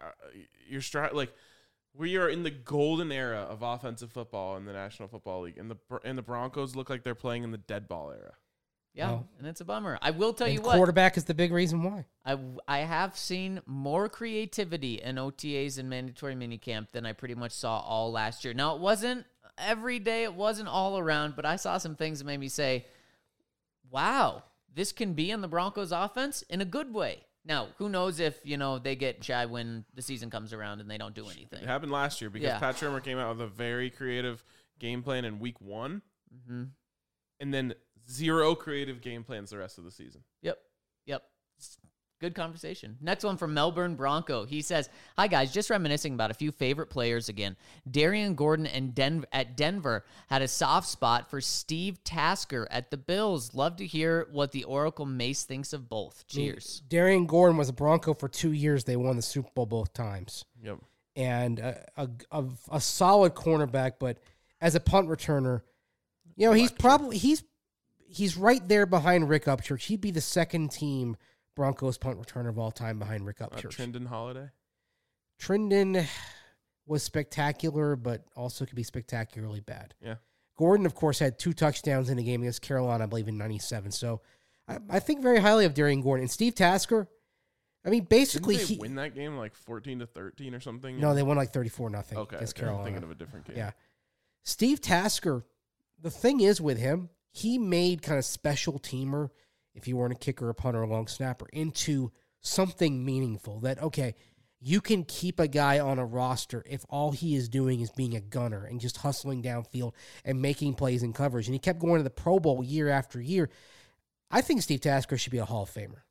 we are in the golden era of offensive football in the National Football League, and the Broncos look like they're playing in the dead ball era. Yeah, Well, and it's a bummer. I will tell And you what. quarterback is the big reason why. I have seen more creativity in OTAs and mandatory minicamp than I pretty much saw all last year. Now, it wasn't every day. It wasn't all around, but I saw some things that made me say, wow, this can be in the Broncos offense in a good way. Now, who knows if, they get shy when the season comes around and they don't do anything. It happened last year because Yeah. Pat Shurmur came out with a very creative game plan in week 1, and then 0 creative game plans the rest of the season. Yep. Good conversation. Next one from Melbourne Bronco. He says, hi, guys. Just reminiscing about a few favorite players again. Darian Gordon at Denver had a soft spot for Steve Tasker at the Bills. Love to hear what the Oracle Mace thinks of both. Cheers. Darian Gordon was a Bronco for 2 years. They won the Super Bowl both times. Yep. And a solid cornerback, but as a punt returner, he's right there behind Rick Upchurch. He'd be the second team Broncos punt returner of all time behind Rick Upchurch. Trindon Holiday. Trindon was spectacular, but also could be spectacularly bad. Yeah. Gordon, of course, had 2 touchdowns in a game against Carolina, I believe, in 97. So I think very highly of Darian Gordon. And Steve Tasker, basically Didn't they win that game like 14-13 or something? No, they won like 34-0 Okay, against I'm Carolina. thinking of a different game. Yeah. Steve Tasker, the thing is with him, he made kind of special teamer, if you weren't a kicker, a punter, a long snapper, into something meaningful. That, okay, you can keep a guy on a roster if all he is doing is being a gunner and just hustling downfield and making plays in coverage. And he kept going to the Pro Bowl year after year. I think Steve Tasker should be a Hall of Famer.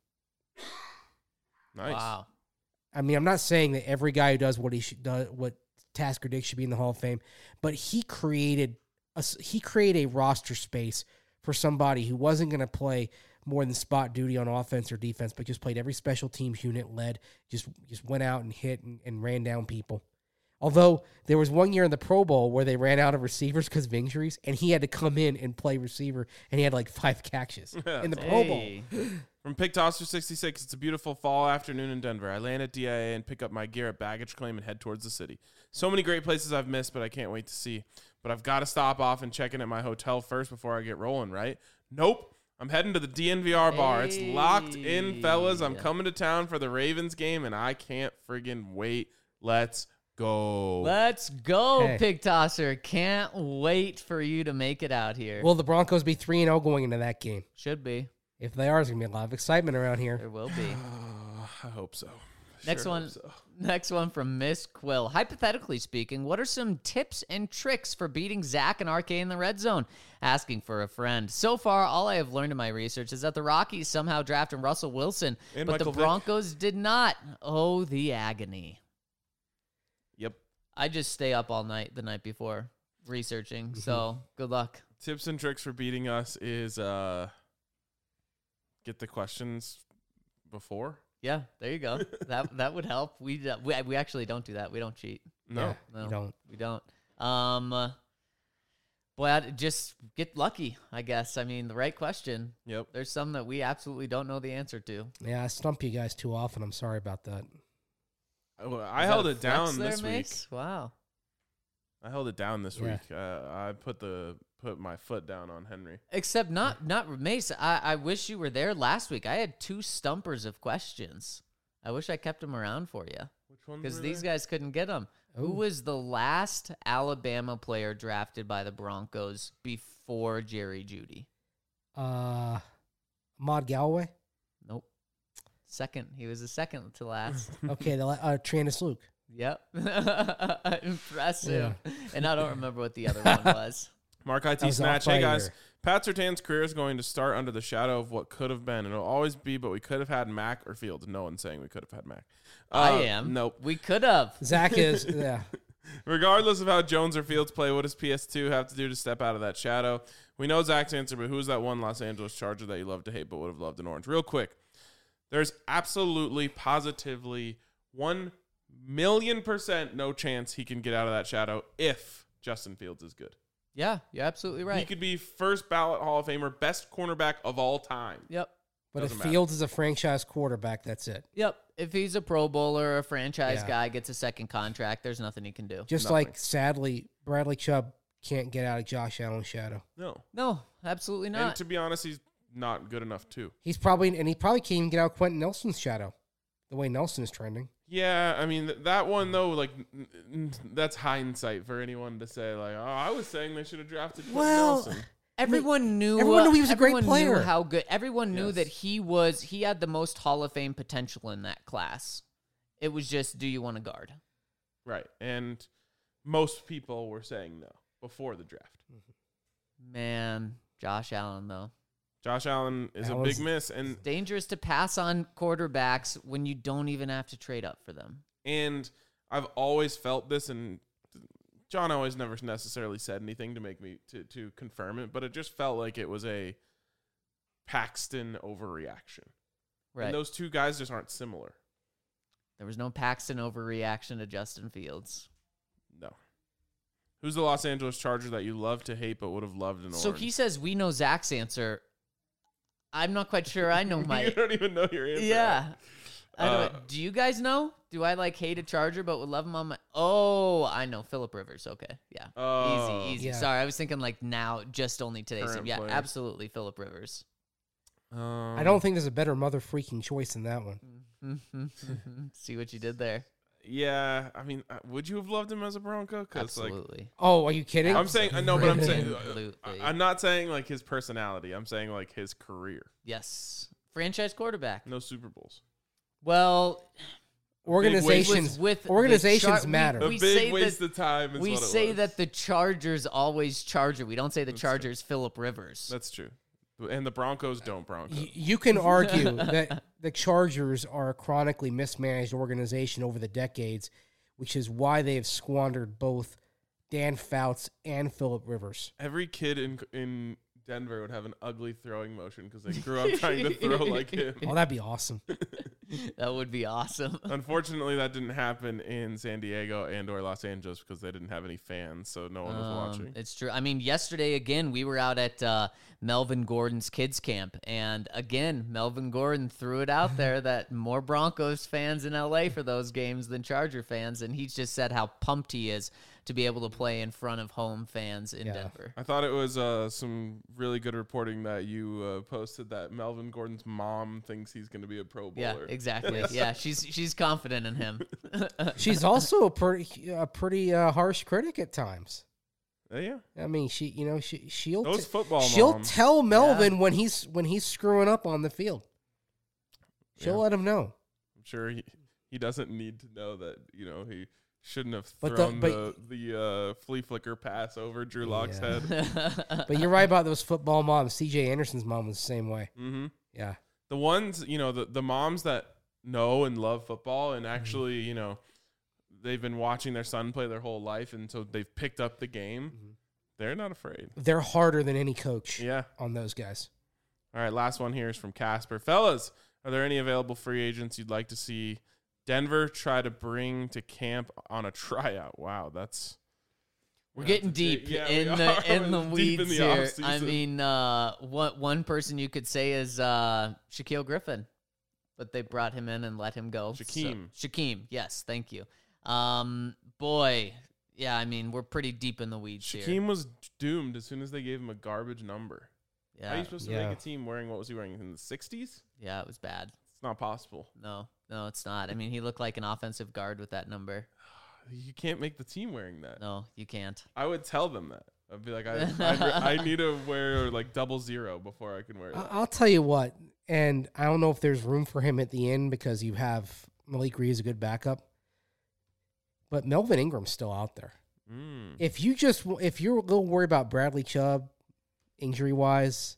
Nice. Wow. I'm not saying that every guy who does what Tasker did should be in the Hall of Fame, but he created a roster space for somebody who wasn't going to play more than spot duty on offense or defense, but just played every special teams unit, just went out and hit and ran down people. Although there was one year in the Pro Bowl where they ran out of receivers because of injuries, and he had to come in and play receiver, and he had like 5 catches in the Pro Bowl. Hey. From Pick Tosser 66, it's a beautiful fall afternoon in Denver. I land at DIA and pick up my gear at baggage claim and head towards the city. So many great places I've missed, but I can't wait to see. But I've got to stop off and check in at my hotel first before I get rolling, right? Nope. I'm heading to the DNVR bar. It's locked in, fellas. I'm coming to town for the Ravens game, and I can't friggin' wait. Let's go. Let's go, Hey. Pig Tosser. Can't wait for you to make it out here. Will the Broncos be 3-0 going into that game? Should be. If they are, there's going to be a lot of excitement around here. There will be. I hope so. Next Sure one. hope so. Next one from Miss Quill. Hypothetically speaking, what are some tips and tricks for beating Zach and RK in the red zone? Asking for a friend. So far, all I have learned in my research is that the Rockies somehow drafted Russell Wilson, And but Michael the Vick. Broncos did not. Oh, the agony. Yep. I just stay up all night the night before researching, so good luck. Tips and tricks for beating us is get the questions before. Yeah, there you go. That would help. We actually don't do that. We don't cheat. No. Yeah, No, you don't. We don't. Boy, I'd just get lucky, I guess. The right question. Yep. There's some that we absolutely don't know the answer to. Yeah, I stump you guys too often. I'm sorry about that. I held it down this week. Mace? Wow. I held it down this Yeah. week. I put my foot down on Henry. Except not Mace. I wish you were there last week. I had 2 stumpers of questions. I wish I kept them around for you Which one? because these guys couldn't get them. Who Ooh. was the last Alabama player drafted by the Broncos before Jerry Jeudy? Ahmad Galloway. Nope. Second. He was the second to last. Okay, Trandis Luke. Yep. Impressive. And I don't remember what the other one was. Mark That IT was Snatch. Hey, guys. off-fire. Pat Surtain's career is going to start under the shadow of what could have been. It'll always be, but we could have had Mac or Fields. No one's saying we could have had Mac. I am. Nope. We could have. Zach is, yeah. Regardless of how Jones or Fields play, what does PS2 have to do to step out of that shadow? We know Zach's answer, but who's that one Los Angeles Charger that you love to hate but would have loved in orange? Real quick, there's absolutely, positively, 1,000,000% no chance he can get out of that shadow if Justin Fields is good. Yeah, you're absolutely right. He could be first ballot Hall of Famer, best cornerback of all time. Yep. But Doesn't if matter. Fields is a franchise quarterback, that's it. Yep. If he's a Pro Bowler or a franchise Yeah. guy, gets a second contract, there's nothing he can do. Just Nothing. like, sadly, Bradley Chubb can't get out of Josh Allen's shadow. No. No, absolutely And not. to be honest, he's not good enough, too. He probably can't even get out Quentin Nelson's shadow, the way Nelson is trending. Yeah, I mean, that one, though, like, that's hindsight for anyone to say, like, oh, I was saying they should have drafted Quentin Well, Nelson. Everyone knew he was a great everyone player. Knew how good. Everyone knew Yes. that he had the most Hall of Fame potential in that class. It was just, do you want to guard? Right. And most people were saying no before the draft. Man, Josh Allen though. Josh Allen is That a was- big miss. And Dangerous to pass on quarterbacks when you don't even have to trade up for them. I've always felt this, and John always never necessarily said anything to make me to confirm it, but it just felt like it was a Paxton overreaction. Right. And those two guys just aren't similar. There was no Paxton overreaction to Justin Fields. No. Who's the Los Angeles Charger that you love to hate but would have loved in So orange? he says we know Zach's answer. I'm not quite sure I know you my. don't even know your answer. Yeah. I don't, do you guys know? Do I like hate a Charger but would love him on my? Oh, I know Phillip Rivers. Okay, yeah, Oh. easy. Yeah. Sorry, I was thinking like now, just only today's Current team. Yeah, players. absolutely Phillip Rivers. I don't think there's a better mother freaking choice than that one. See what you did there? Yeah, I mean, would you have loved him as a Bronco? 'Cause, like, Absolutely. Oh, are you kidding? I'm saying no, but I'm saying Absolutely. I'm not saying like his personality. I'm saying like his career. Yes, franchise quarterback. No Super Bowls. Well, organizations with the organizations Char- matter. A We say big that- waste of time. Is we what it say was. that the Chargers always Charger. We don't say the That's true. Chargers Phillip Rivers. That's true. And the Broncos don't Bronco. You can argue that the Chargers are a chronically mismanaged organization over the decades, which is why they have squandered both Dan Fouts and Phillip Rivers. Every kid in Denver would have an ugly throwing motion because they grew up trying to throw like him. Oh, that'd be awesome. That would be awesome. Unfortunately, that didn't happen in San Diego and or Los Angeles because they didn't have any fans, so no one was watching. It's true. I mean, yesterday again, we were out at Melvin Gordon's kids camp, and again, Melvin Gordon threw it out there that more Broncos fans in LA for those games than Charger fans, and he just said how pumped he is to be able to play in front of home fans in Yeah. Denver. I thought it was some really good reporting that you posted that Melvin Gordon's mom thinks he's going to be a Pro Yeah, Bowler. exactly. Yeah, she's confident in him. She's also a pretty harsh critic at times. Yeah. I mean, she'll Those football she'll moms. tell Melvin when he's screwing up on the field. She'll Yeah. let him know. I'm sure he doesn't need to know that, he shouldn't have But thrown but- the flea flicker pass over Drew Lock's Yeah. head. But you're right about those football moms. C.J. Anderson's mom was the same way. Mm-hmm. Yeah. The ones, the moms that know and love football and actually, they've been watching their son play their whole life, and so they've picked up the game. They're not afraid. They're harder than any coach Yeah. on those guys. All right, last one here is from Casper. Fellas, are there any available free agents you'd like to see Denver try to bring to camp on a tryout? Wow, that's We're getting deep Yeah, we in are. the Deep weeds in the here. offseason. I mean, one person you could say is Shaquille Griffin, but they brought him in and let him go. Shaquem. So, Shaquem, yes, thank you. Boy, yeah, I mean, we're pretty deep in the weeds here. Shaquem was doomed as soon as they gave him a garbage number. How are Yeah, you supposed to Yeah. make a team wearing, what was he wearing, in the 60s? yeah, it was bad. It's not possible. No, it's not. I mean, he looked like an offensive guard with that number. You can't make the team wearing that. No, you can't. I would tell them that. I'd be like, I need to wear like 00 before I can wear it. I'll tell you what, and I don't know if there's room for him at the end because you have Malik Reed as a good backup, but Melvin Ingram's still out there. If you're a little worried about Bradley Chubb injury wise,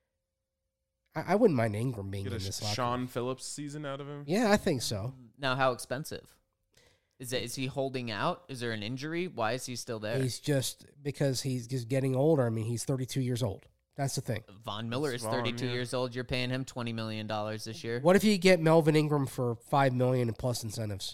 I wouldn't mind Ingram being Get in a this locker. Sean Phillips season out of him. Yeah, I think so. Now, how expensive? Is he holding out? Is there an injury? Why is he still there? He's just because he's just getting older. I mean, he's 32 years old. That's the thing. Von Miller is Vaughn, 32 yeah. years old. You're paying him $20 million this year. What if you get Melvin Ingram for $5 million and plus incentives?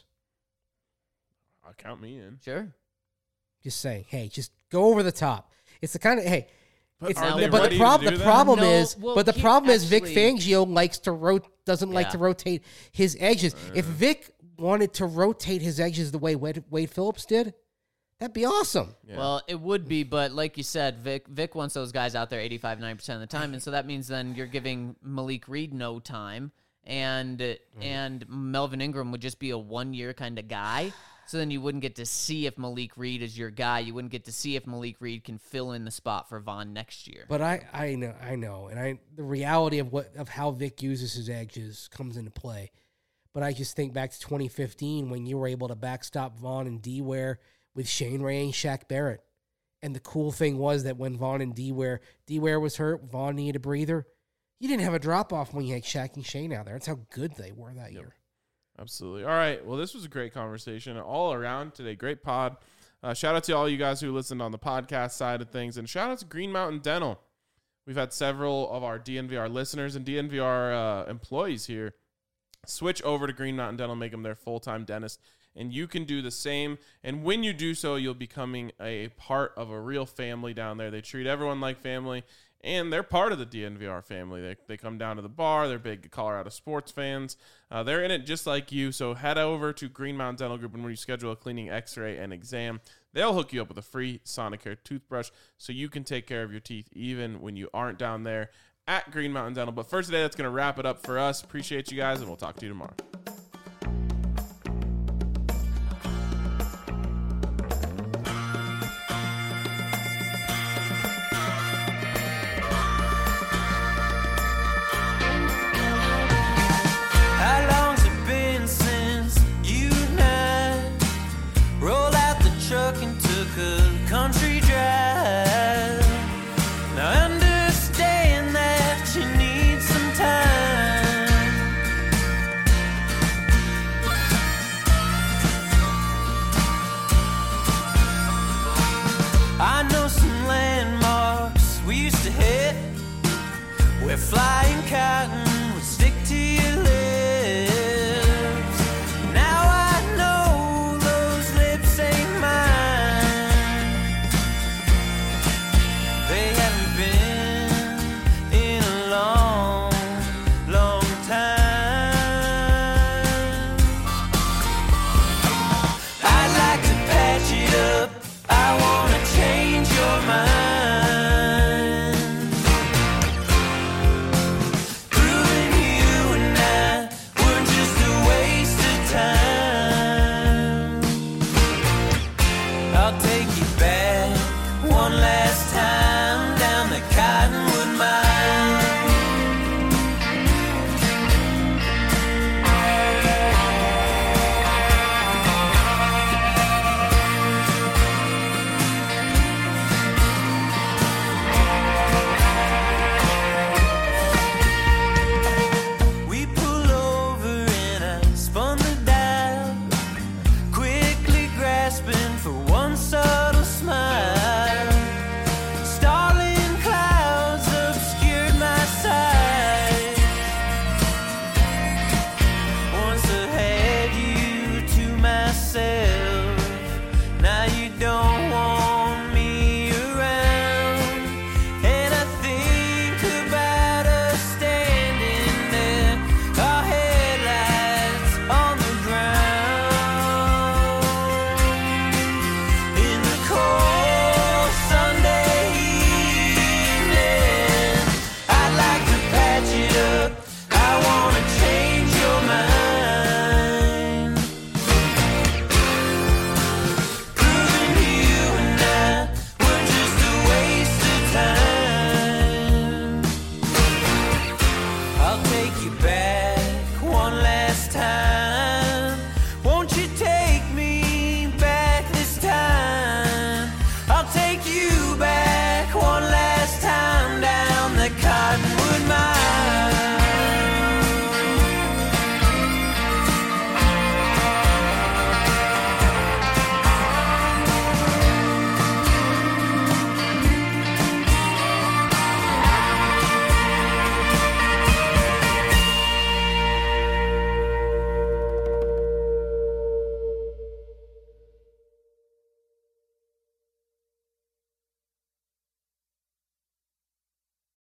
I'll count me in. Sure. Just saying, hey, just go over the top. It's the kind of But It's are not- they but ready the to do that? problem No, is, well, but the he problem is Vic actually- Fangio doesn't like Yeah. to rotate his edges. If Vic wanted to rotate his edges the way Wade Phillips did, that'd be awesome. Yeah. Well, it would be, but like you said, Vic wants those guys out there 85, 90% of the time, and so that means then you're giving Malik Reed no time, and Melvin Ingram would just be a 1-year kind of guy. So then you wouldn't get to see if Malik Reed is your guy. You wouldn't get to see if Malik Reed can fill in the spot for Vaughn next year. But I know, and the reality of how Vic uses his edges comes into play. But I just think back to 2015 when you were able to backstop Vaughn and D-Ware with Shane Ray and Shaq Barrett. And the cool thing was that when Vaughn and D-Ware was hurt, Vaughn needed a breather. You didn't have a drop-off when you had Shaq and Shane out there. That's how good they were that year. Absolutely. All right. Well, this was a great conversation all around today. Great pod. Shout out to all you guys who listened on the podcast side of things. And shout out to Green Mountain Dental. We've had several of our DNVR listeners and DNVR employees here switch over to Green Mountain Dental, make them their full-time dentist. And you can do the same. And when you do so, you'll becoming a part of a real family down there. They treat everyone like family. And they're part of the DNVR family. They come down to the bar. They're big Colorado sports fans. They're in it just like you. So head over to Green Mountain Dental Group, and when you schedule a cleaning, x-ray, and exam, they'll hook you up with a free Sonicare toothbrush so you can take care of your teeth even when you aren't down there at Green Mountain Dental. But for today, that's going to wrap it up for us. Appreciate you guys, and we'll talk to you tomorrow. How long's it been since you and I rolled out the truck and took a country drive? Now I understand that you need some time. I know some landmarks we used to hit where flying cotton